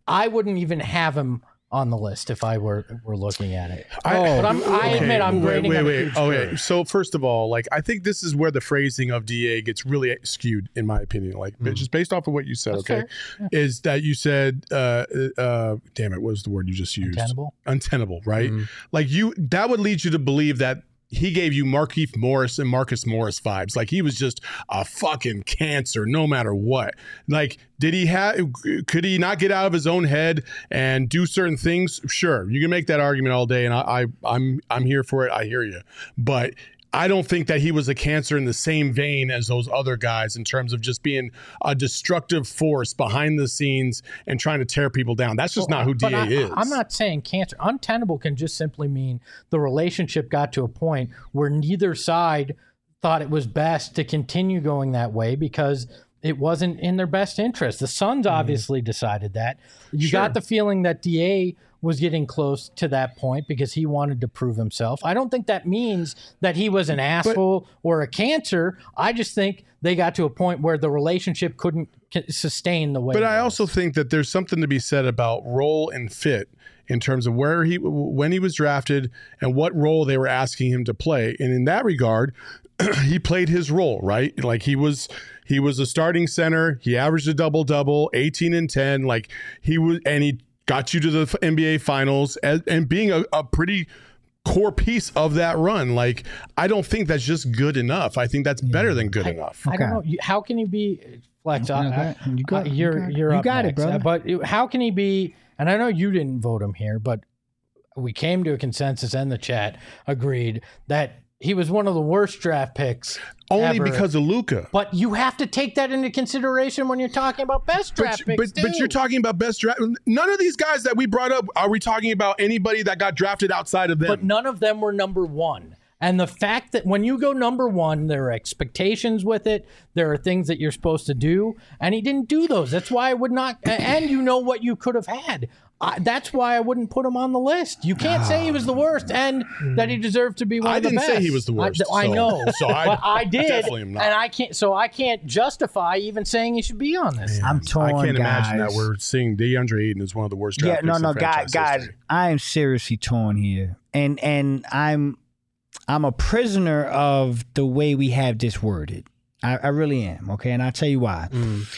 I wouldn't even have him on the list if I were were looking at it. I, but I'm, I okay, admit I'm wait, grading wait, on a wait. huge Okay, curve. so first of all, like I think this is where the phrasing of D A gets really skewed, in my opinion. Like Mm. just based off of what you said, That's okay, fair. is that you said, uh, uh, damn it, what was the word you just used? Untenable? Untenable, right? Mm. Like you, that would lead you to believe that he gave you Markieff Morris and Marcus Morris vibes. Like he was just a fucking cancer no matter what. Like, did he have, could he not get out of his own head and do certain things? Sure. You can make that argument all day. And I, I I'm, I'm here for it. I hear you. But I don't think that he was a cancer in the same vein as those other guys in terms of just being a destructive force behind the scenes and trying to tear people down. That's just Well, not who D but A I, is. I'm not saying cancer. Untenable can just simply mean the relationship got to a point where neither side thought it was best to continue going that way because it wasn't in their best interest. The Suns obviously decided that. You Sure. got the feeling that D A was getting close to that point because he wanted to prove himself. I don't think that means that he was an asshole or a cancer. I just think they got to a point where the relationship couldn't c- sustain the way. But it I was. also think that there's something to be said about role and fit in terms of where he, when he was drafted and what role they were asking him to play. And in that regard, he played his role, right? Like he was, he was a starting center. He averaged a double double, eighteen and ten. Like he was, and he got you to the N B A finals and, and being a, a pretty core piece of that run. Like, I don't think that's just good enough. I think that's better than good enough. I don't Okay. know. You- How can he be Flex? No, I- go ahead. You got I- it. You you're got it. you're You up got it, next. brother. Uh, But how can he be? And I know you didn't vote him here, but we came to a consensus and the chat agreed that he was one of the worst draft picks. Only ever. because of Luka. But you have to take that into consideration when you're talking about best draft But, picks. but, but too. you're talking about best draft. None of these guys that we brought up, are we talking about anybody that got drafted outside of them? But none of them were number one. And the fact that when you go number one, there are expectations with it. There are things that you're supposed to do. And he didn't do those. That's why I would not. And you know what you could have had. I, that's why I wouldn't put him on the list. You can't say he was the worst and that he deserved to be one I of the didn't best. say he was the worst, I, I so- know. so I but I did. definitely am not. And I can't. So I can't justify even saying he should be on this. I'm torn, I can't guys. imagine that we're seeing DeAndre Ayton as one of the worst Yeah, draft no, picks no, in guys, franchise guys, history. I am seriously torn here, and and I'm I'm a prisoner of the way we have this worded. I, I really am. Okay, and I'll tell you why.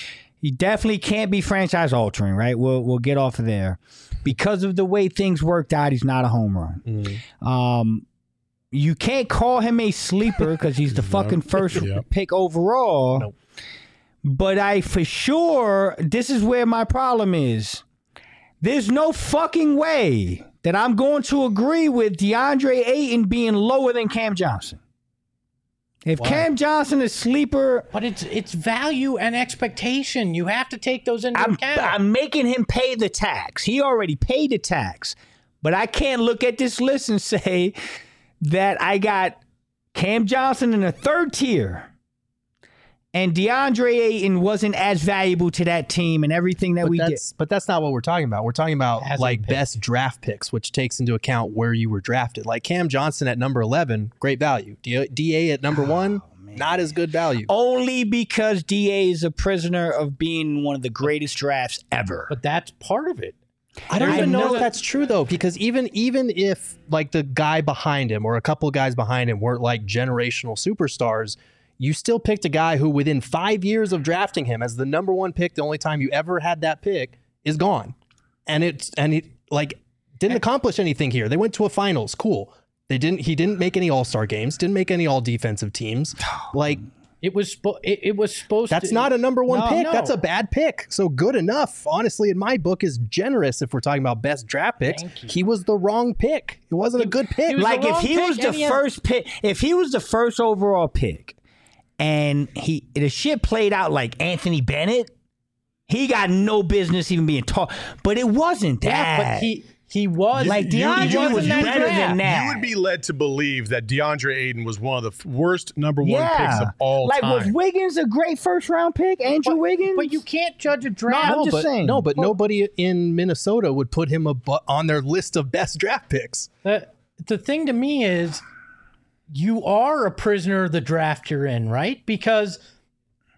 He definitely can't be franchise altering, right? We'll we'll get off of there because of the way things worked out. He's not a home run. Um, you can't call him a sleeper because he's the fucking first Yep. pick overall. Nope. But I for sure, this is where my problem is. There's no fucking way that I'm going to agree with DeAndre Ayton being lower than Cam Johnson. If Cam Johnson is sleeper, But it's it's value and expectation. You have to take those into I'm, account. I'm making him pay the tax. He already paid the tax. But I can't look at this list and say that I got Cam Johnson in a third tier and DeAndre Ayton wasn't as valuable to that team and everything that But we did. that's, but that's not what we're talking about. We're talking about Hasn't like picked. best draft picks, which takes into account where you were drafted. Like Cam Johnson at number eleven, great value. D- DA at number one, not as good value. Only because D A is a prisoner of being one of the greatest drafts ever. but that's part of it. I don't I even know know if that- that's true though, because even even if like the guy behind him or a couple of guys behind him weren't like generational superstars, you still picked a guy who within five years of drafting him as the number one pick, the only time you ever had that pick, is gone. And it's and it like didn't accomplish anything here. They went to a finals. Cool. They didn't he didn't make any all-star games, didn't make any all defensive teams. Like It was spo- it, it was supposed that's to. not a number one No, pick. no. That's a bad pick. So good enough, honestly, in my book, is generous if we're talking about best draft picks. Thank you. He was the wrong pick. It wasn't a good pick. he was like the if wrong he pick was the and he has- first pick, if he was the first overall pick, and he the shit played out like Anthony Bennett, he got no business even being taught. But it wasn't that. Yeah, but he he was Like he DeAndre in was that better draft. than that. You would be led to believe that DeAndre Ayton was one of the f- worst number one yeah, picks of all like time. was Wiggins a great first round pick? Andrew But, Wiggins, but you can't judge a draft. I'm no, just but, saying. no, but nobody in Minnesota would put him abo- on their list of best draft picks. The, the thing to me is you are a prisoner of the draft you're in, right? Because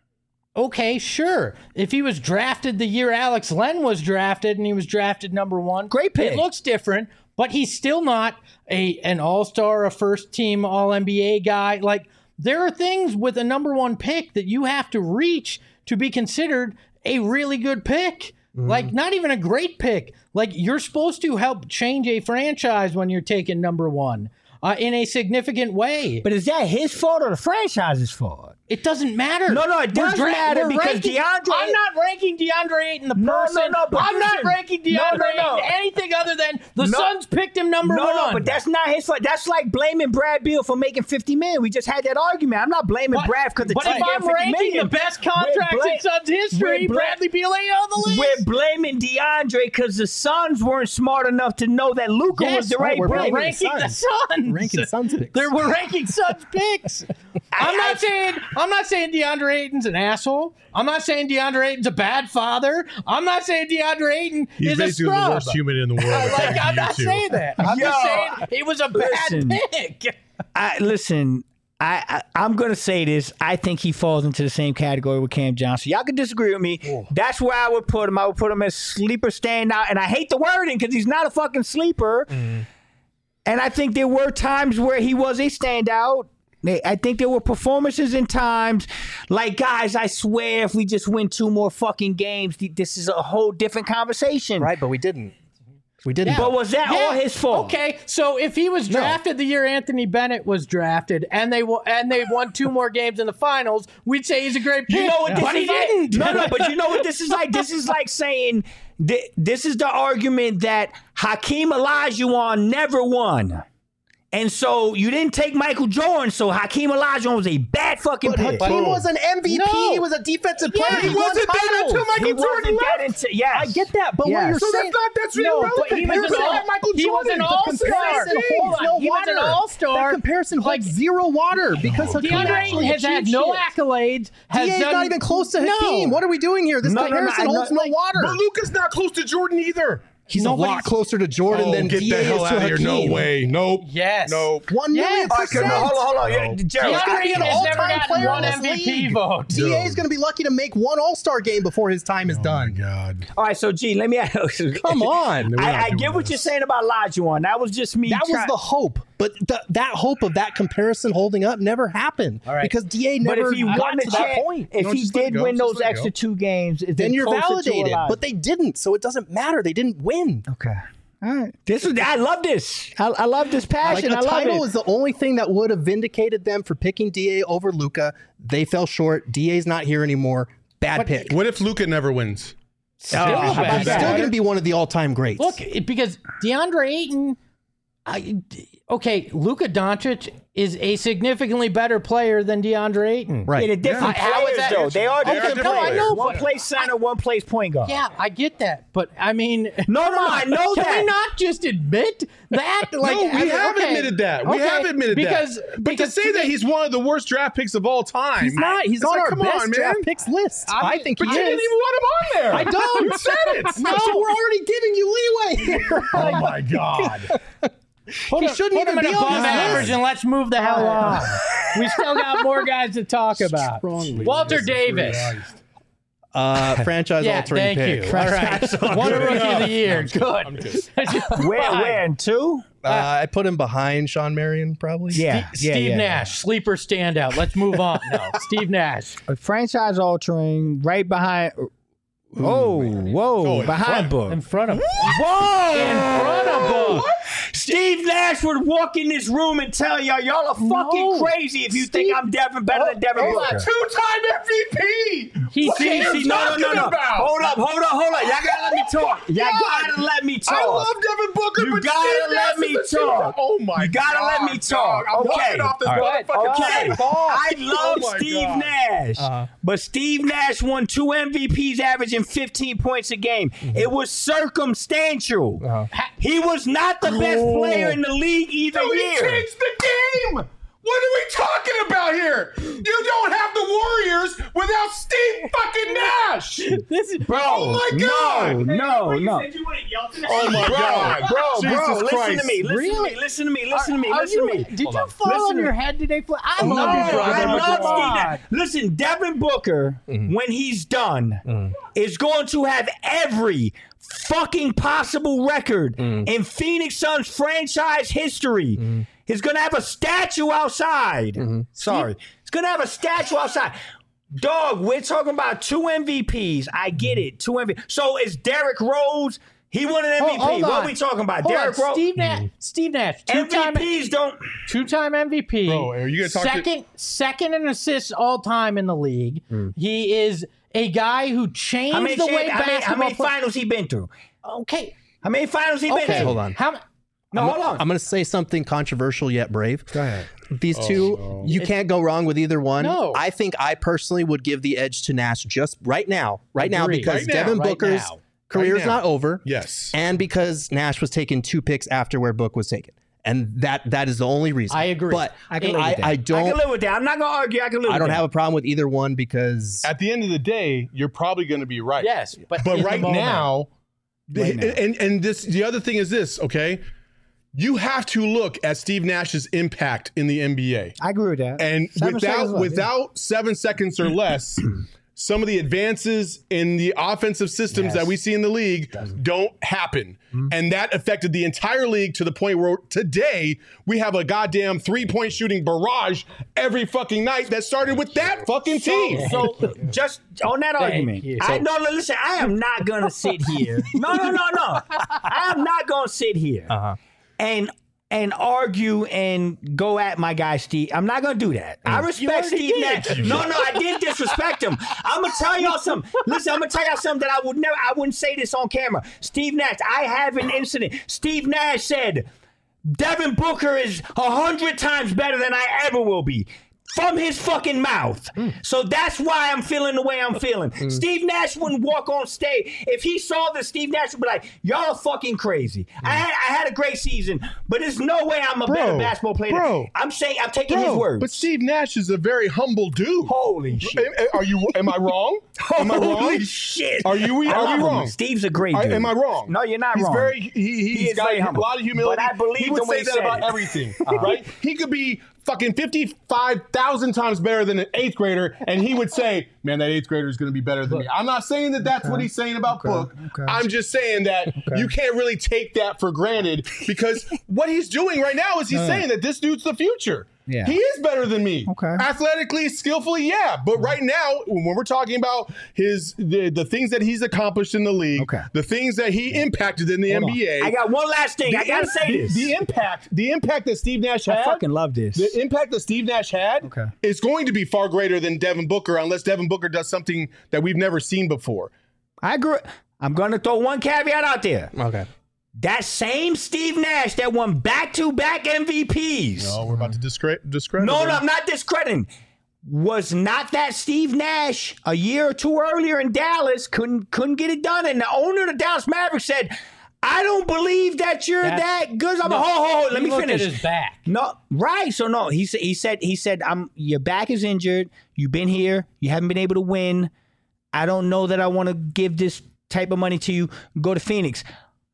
Okay, sure. If he was drafted the year Alex Len was drafted and he was drafted number one, Great pick. It looks different, but he's still not a an all-star, a first-team All N B A guy. Like, there are things with a number one pick that you have to reach to be considered a really good pick. Mm-hmm. Like, not even a great pick. Like, you're supposed to help change a franchise when you're taking number one uh, in a significant way. But is that his fault or the franchise's fault? It doesn't matter. No, no, it does We're dra- matter we're because ranking, DeAndre. I'm not ranking DeAndre Ayton the No, person. no, no, but I'm not listen. ranking DeAndre No, no, no. Ayton anything other than the No. Suns picked him number no, one. No, but that's not his fault. That's like blaming Brad Beal for making fifty million. We just had that argument. I'm not blaming But, Brad because the but team if gave I'm fifty ranking million. the best contracts We're bla- in Suns history, we're bla- Bradley Beal ain't on the list. We're blaming DeAndre because the Suns weren't smart enough to know that Luka Yes, was the right we're pick. ranking the Suns. Ranking Suns picks. There we're ranking Suns picks. I'm not saying I'm not saying DeAndre Ayton's an asshole. I'm not saying DeAndre Ayton's a bad father. I'm not saying DeAndre Ayton He's is a basically scrub. the worst human in the world. like, according to I'm you not two. saying that. I'm Yo, just saying it was a bad listen. pick. I listen. I, I I'm gonna say this. I think he falls into the same category with Cam Johnson. Y'all can disagree with me. That's where I would put him. I would put him as sleeper standout. And I hate the wording because he's not a fucking sleeper. Mm. And I think there were times where he was a standout. I think there were performances in times like, guys, I swear if we just win two more fucking games, this is a whole different conversation. Right, but we didn't. We didn't. But was that all his fault? Okay, so if he was drafted the year Anthony Bennett was drafted, and they w- and they won two more games in the finals, we'd say he's a great pick. You know what this but is he like? didn't. No, no, but you know what this is like? This is like saying th- this is the argument that Hakeem Olajuwon never won. And so you didn't take Michael Jordan, so Hakeem Olajuwon was a bad fucking But pick. Hakeem was an M V P. No. He was a defensive Yeah, player. he He won wasn't that titles. until Michael He Jordan wasn't that left. into yes. I get that, but Yes. what you're So saying, that's not that's No, irrelevant. but he was Here's an all- all- Michael he was Jordan. an The all-star. comparison Hold holds on. no He was an water. all-star. That comparison holds Like- zero water because Hakeem DeAndre Ayton actually has had achieved no shit. accolades. Has D A is done, not even close to No. Hakeem. What are we doing here? This No, no, no, comparison I know- holds no water. But Luka's not close to Jordan either. He's a lot Nobody's- closer to Jordan Oh, than get D A the is hell to out of here. Hakeem. No way. Nope. Yes. Nope. One million Yes. Okay, percent. no, hold on, hold on. Yeah, No. Gerald, He's DeAndre gonna be Ayton an has never all-time gotten player one in M this V P league. vote. D A is going to be lucky to make one All-Star game before his time is Oh my done. God. all right, so G, let me ask Come on. We're not I, I doing get what this. you're saying about Olajuwon. That was just me. That was try- the hope, but th- that hope of that comparison holding up never happened All right. because D A But never if he got won the to that chance, point. if No, he just let it did go. win Just those let it extra go. two games, is Then it you're closer to validated, Olajuwon? but they didn't, so it doesn't matter. They didn't win. Okay. All right. This is I love this. I, I love this Like passion. a I love title it. is the only thing that would have vindicated them for picking D A over Luka. They fell short. D A's not here anymore. Bad pick. What if Luka never wins? Still Oh, a how bad about He's that? still pick. going to be one of the all-time greats. Look, it- because DeAndre Ayton, I, okay, Luka Doncic is a significantly better player than DeAndre Ayton. right. In a different Yeah. How is players, that- though. They are They are different different players. players. One plays center, one plays point guard. Yeah, I get that, but I mean, No, no, come I on. know Can that. we not just admit that? Like, no, we I mean, have okay. admitted that. We Okay, have admitted because, that. But because to say that me- he's one of the worst draft picks of all time. He's not. He's it's on like, our come best on, draft man. picks list. I I, mean, think But he you is. didn't even want him on there. I don't. You said it. No, so we're already giving you leeway here. Oh my God. Put He him- shouldn't put him even in be on above this average list. and let's move the hell on. We still got more guys to talk about. Strongly Walter Jesus Davis. Christ. Uh, franchise Yeah, altering thank pick. you. All right. One rookie of the year. Good. I'm good. Where, where, in two? Uh, I put him behind Sean Marion, probably. Yeah. Steve yeah, yeah, Nash, sleeper standout. Let's move on. No, Steve Nash. A franchise altering right behind. Whoa, whoa, Oh, in behind Book. In front of him. Whoa! In front of Book. Steve Nash would walk in this room and tell y'all, y'all are fucking No. crazy if you think I'm Devin better than Devin He's Booker. a two-time M V P. He What are changed- you See, no, no, talking no, no. about? Hold up, hold up, hold up. Y'all gotta let me talk. Y'all gotta let me talk. I love Devin Booker, You but gotta Steve let Nash me is a talk. two- Oh my You gotta God, let me talk. dog. I'm Okay. walking off this All right. motherfucking Okay. platform. I love Oh my Steve God. Nash, Uh-huh. but Steve Nash won two M V Ps averaging fifteen points a game. It was circumstantial. Uh-huh. He was not the best player in the league either No, he year. changed the game. What are we talking about here? You don't have the Warriors without Steve fucking Nash. This is Bro, Oh my God. no, no, no. You said you wanted Oh my God, bro, Jesus bro, listen Christ. to me, listen Really? to me, listen to me, listen to me, Are listen you, to me. Did you Hold fall Listen on to your me. head today? Fl- I No, love you, I brother. love Come Steve on. Nash. Listen, Devin Booker, Mm-hmm. when he's done, is going to have every fucking possible record Mm. in Phoenix Suns franchise history. Mm-hmm. He's going to have a statue outside. Sorry. He's going to have a statue outside. Dog, we're talking about two M V Ps. I get it. Two M V Ps. So is Derrick Rose, he won an M V P. Hold- hold what on. are we talking about? Hold Derrick on. Rose. Steve Nash. Steve Nash. Two-time, M V Ps don't. two-time M V P. Bro, are you gonna talk to- second, second in assists all time in the league. Hmm. He is a guy who changed How many, the way champ- how many, basketball. how many play- finals he been through? Okay. How many finals he been Okay. through? Hold on. How? No, I'm, hold on. I'm going to say something controversial yet brave. Go ahead. These two, you can't go wrong with either one. No. I think I personally would give the edge to Nash just right now, right now, Agreed. because Right now. Devin Right Booker's now. career's Right now. not over, Yes. and because Nash was taken two picks after where Book was taken, and that that is the only reason. I agree. But I I, can live with that. I, I don't. can live with that. I'm not gonna argue. I can live. I with don't that. have a problem with either one because At the end of the day, you're probably going to be right. Yes, but But in the right moment- now, Right now. and and this the other thing is this, okay? You have to look at Steve Nash's impact in the N B A. I agree with that. And Seven without seconds left, without seven seconds or less, some of the advances in the offensive systems Yes. that we see in the league don't happen. And that affected the entire league to the point where today we have a goddamn three-point shooting barrage every fucking night that started with that fucking team. So just on that argument, you. I no, no, listen. I am not gonna sit here. No, no, no, no. I am not gonna sit here Uh-huh. and and argue and go at my guy Steve. I'm not gonna do that. I respect already Steve did. Nash. No, no, I didn't disrespect him. I'm gonna tell y'all something. Listen, I'm gonna tell y'all something that I would never. I wouldn't say this on camera. Steve Nash. I have an incident. Steve Nash said, "Devin Booker is a hundred times better than I ever will be." From his fucking mouth. So that's why I'm feeling the way I'm feeling. Steve Nash wouldn't walk on stage. If he saw this, Steve Nash would be like, y'all are fucking crazy. I, had, I had a great season, but there's no way I'm a Bro, better basketball player. bro. I'm saying, I'm taking Bro, his words. But Steve Nash is a very humble dude. Holy shit. Am- Are you? Am I wrong? Am I wrong? Holy shit. Are you? I Are love we him. wrong? Steve's a great Are- dude. am I wrong? No, you're not he's wrong. Very, he, he's He is got very a humble. lot of humility. But I believe he would the way say he that said about it. everything, right? He could be fucking fifty-five thousand times better than an eighth grader, and he would say, man, that eighth grader is going to be better than me. I'm not saying that that's what he's saying about Book. okay. I'm just saying that you can't really take that for granted because what he's doing right now is he's saying that this dude's the future. Yeah. He is better than me. Okay. Athletically, skillfully, yeah. But right now, when we're talking about his the, the things that he's accomplished in the league, Okay. the things that he impacted in the Hold N B A. I got one last thing. I gotta say the, this. The impact, the impact that Steve Nash had. I fucking love this. The impact that Steve Nash had Okay. is going to be far greater than Devin Booker, unless Devin Booker does something that we've never seen before. I agree. I'm gonna throw one caveat out there. okay. That same Steve Nash that won back-to-back M V Ps. No, we're about to discredit. discredit No, him. no, I'm not discrediting. Was not that Steve Nash a year or two earlier in Dallas couldn't couldn't get it done, and the owner of the Dallas Mavericks said, "I don't believe that you're That's- that good." I'm No, like, ho, ho, ho, let he me looked finish. At his back. No, right. So no, he said he said he said I'm your back is injured. You've been here. You haven't been able to win. I don't know that I want to give this type of money to you. Go to Phoenix.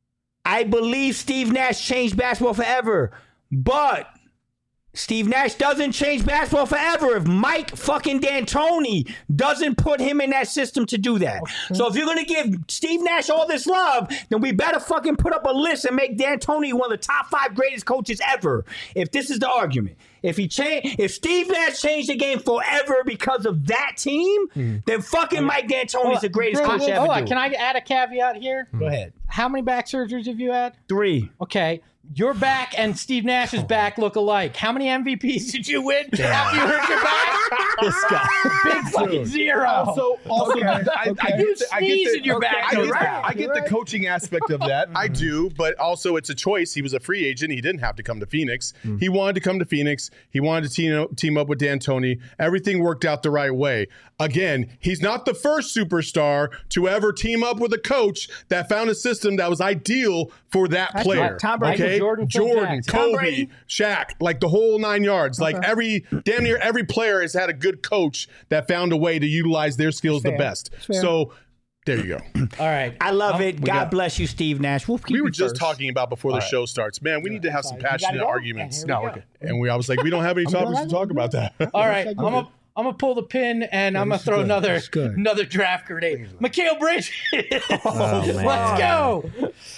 I believe Steve Nash changed basketball forever, but Steve Nash doesn't change basketball forever if Mike fucking D'Antoni doesn't put him in that system to do that. So if you're going to give Steve Nash all this love, then we better fucking put up a list and make D'Antoni one of the top five greatest coaches ever. If this is the argument. If he change, if Steve Nash changed the game forever because of that team, then fucking Mike D'Antoni's the greatest Bro, coach hold ever. on. do. Can I add a caveat here? Go ahead. How many back surgeries have you had? Three. Okay. Your back and Steve Nash's back look alike. How many M V Ps did you win after you hurt your back? This guy. Big fucking zero. Also, also, Okay, I, I, okay. I get the, I get Sneeze the, in your back, I get, you're the, right. I get the coaching aspect of that. I do, but also it's a choice. He was a free agent. He didn't have to come to Phoenix. He wanted to come to Phoenix. He wanted to team, team up with D'Antoni. Everything worked out the right way. Again, he's not the first superstar to ever team up with a coach that found a system that was ideal for that That's player. right. Tom Brady, okay? Jordan, Phil Jordan, Jackson. Tom Kobe, Brady. Shaq, like the whole nine yards. Like every damn near every player has had a good coach that found a way to utilize their skills the fair. best. fair. So There you go. All right. I love it. God got- bless you, Steve Nash. We'll keep We were you just first. talking about before the show starts. Man, we need to have some passionate go? arguments. And here we No, go. okay. And we, I was like, we don't have any topics to talk about that. All right. I'm gonna I'm gonna pull the pin and I'm gonna throw another That's good. another draft grenade. Mikhail Bridges. Oh, man. Let's go.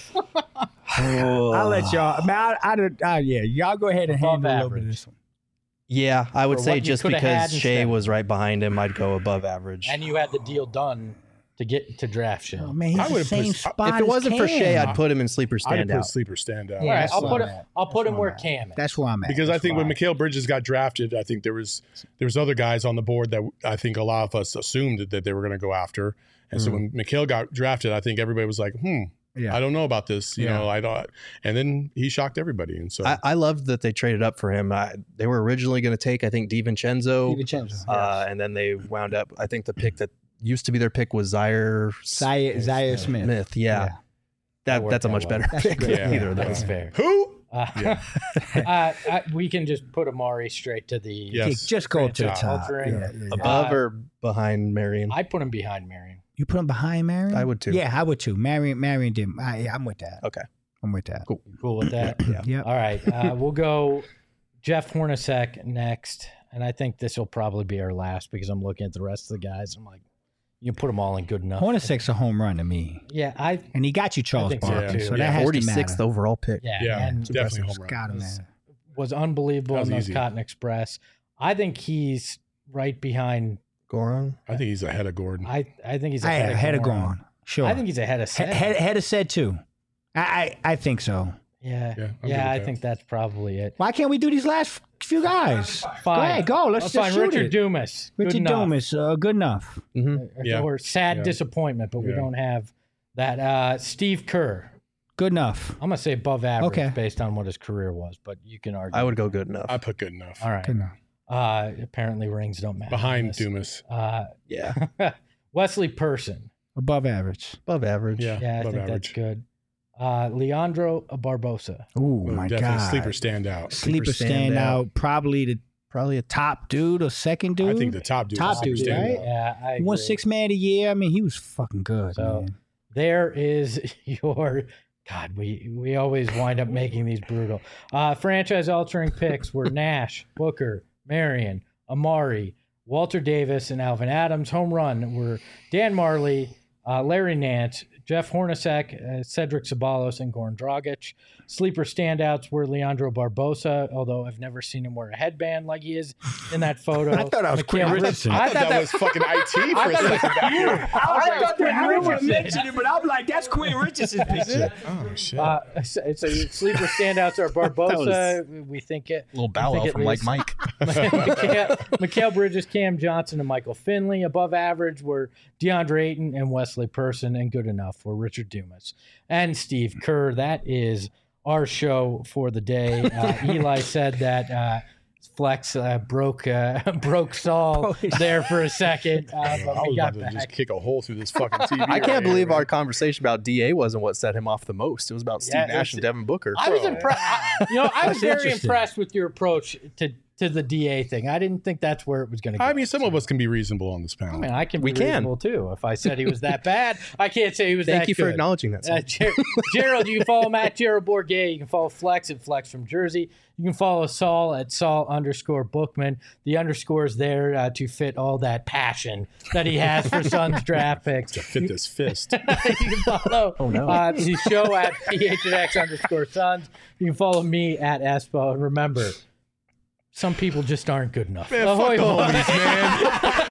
I'll let y'all. Man, I, I, don't- uh, yeah, y'all go ahead and Above handle a little bit of average. this one. Yeah, I would For say what you just coulda had because Shea instead. was right behind him, I'd go above average. And you had the deal done to get to draft Shea. Oh man, he's I the would've same put- spot. if it as wasn't for Cam. Shea, I'd put him in sleeper I'd put standout. sleeper standout. All right, that's I'll where put I'm him. at. I'll put That's him where where I'm at. Cam is. That's where I'm at. Because I That's think when fine. Mikhail Bridges got drafted, I think there was there was other guys on the board that I think a lot of us assumed that, that they were going to go after. And so when Mikhail got drafted, I think everybody was like, hmm, Yeah. I don't know about this. You Yeah. know, I don't. And then he shocked everybody. And so I, I loved that they traded up for him. I, they were originally going to take, I think, DiVincenzo, DiVincenzo, uh, and then they wound up. I think the pick that used to be their pick was Zaire Zaire, Zaire Smith. Smith. Yeah, Yeah. that, worked that's a out much well. better That's pick. good. Yeah. Either of That's those. fair. who? Uh, uh, I, we can just put Amari straight to the. Yes. Just go to the franchise top. altering. Yeah, yeah, yeah. Above Uh, or behind Marion? I put him behind Marion. You put him behind Marion? I would too. Yeah, I would too. Marion, Marion did. I, I'm with that. Okay. I'm with that. Cool. Cool with that? Yeah. Yep. All right. Uh, we'll go Jeff Hornacek next. And I think this will probably be our last because I'm looking at the rest of the guys. I'm like, you can put them all in good enough. Hornacek's a home run to me. Yeah, I. And he got you Charles think so, Barkley, too. so, Yeah, that has to forty-sixth matter. overall pick. Yeah, Yeah, and definitely home run. Got him, was, man. was unbelievable That was in those easy. Cotton Express. I think he's right behind. Goron. I think he's ahead of Gordon. I I think he's I ahead, had of a Goran. gone. Sure. I think he's ahead of He- Seth. head, head of said too. I, I I think so. Yeah, Yeah, yeah, I'm good with I that. think that's probably it. Why can't we do these last few guys? Go Fine. ahead, go. Let's Let's just find shoot Richard it. Dumas. Good Richard enough. Dumas, uh, good enough. Mm-hmm. Yeah. Or sad Yeah. disappointment, but we Yeah. don't have that. Uh, Steve Kerr. Good enough. I'm gonna say above average Okay. based on what his career was, but you can argue. I would go good enough. I put good enough. All right. Good enough. Uh, apparently rings don't matter. Behind in this. Dumas. Uh, yeah, Wesley Person. Above average. above average. Yeah, Yeah, I above think average. that's good. Uh, Leandro Barbosa. Oh Oh, my definitely God. sleeper standout. Sleeper Sleeper standout. Probably the Probably a top. top dude or second dude. I think the top dude. Top is sleeper dude, standout. right? Yeah, I He won agree. six man a year. I mean, he was fucking good. So man. there is your God. We we always wind up making these brutal uh, franchise altering picks. Were Nash, Booker, Marion, Amari, Walter Davis, and Alvin Adams. Home run were Dan Marley, uh, Larry Nance, Jeff Hornacek, uh, Cedric Sabalos, and Goran Dragic. Sleeper standouts were Leandro Barbosa, although I've never seen him wear a headband like he is in that photo. I thought I was Quinn Mikhail- Richardson. I, thought that, was fucking I T for I a thought second. that was you. I thought that I didn't want to Richardson. mention it, but I'm like, that's Quinn Richardson's picture. Oh shit. Uh, so, so sleeper standouts are Barbosa. We think it. Little bow wow from like Mike. Mikhail, Mikhail Bridges, Cam Johnson, and Michael Finley. Above average were DeAndre Ayton and Wesley Person, and good enough were Richard Dumas and Steve Kerr. That is our show for the day. Uh, Eli said that uh, Flex uh, broke uh, broke Saul there for a second, uh, I but was we about got to back. just kick a hole through this fucking T V. I right can't here, believe man. our conversation about D A wasn't what set him off the most. It was about Steve Yeah, Nash it's- and Devin Booker. I was Bro. impressed. You know, I was That's very interesting. impressed with your approach to to the D A thing. I didn't think that's where it was going to go. I mean, some of us can be reasonable on this panel. I mean, I can We be can. reasonable too. If I said he was that bad, I can't say he was Thank that you for good. acknowledging that. Uh, Ger- Gerald, you can follow Matt Gerald Bourget. You can follow Flex at Flex from Jersey. You can follow Saul at Saul underscore Bookman. The underscore is there uh, to fit all that passion that he has for Suns draft picks. to fit this fist. You can follow Oh, no. uh, the show at P H N X underscore Suns. You can follow me at Espo. And remember, some people just aren't good enough. Man, fuck Ahoy, the boys. homies, man.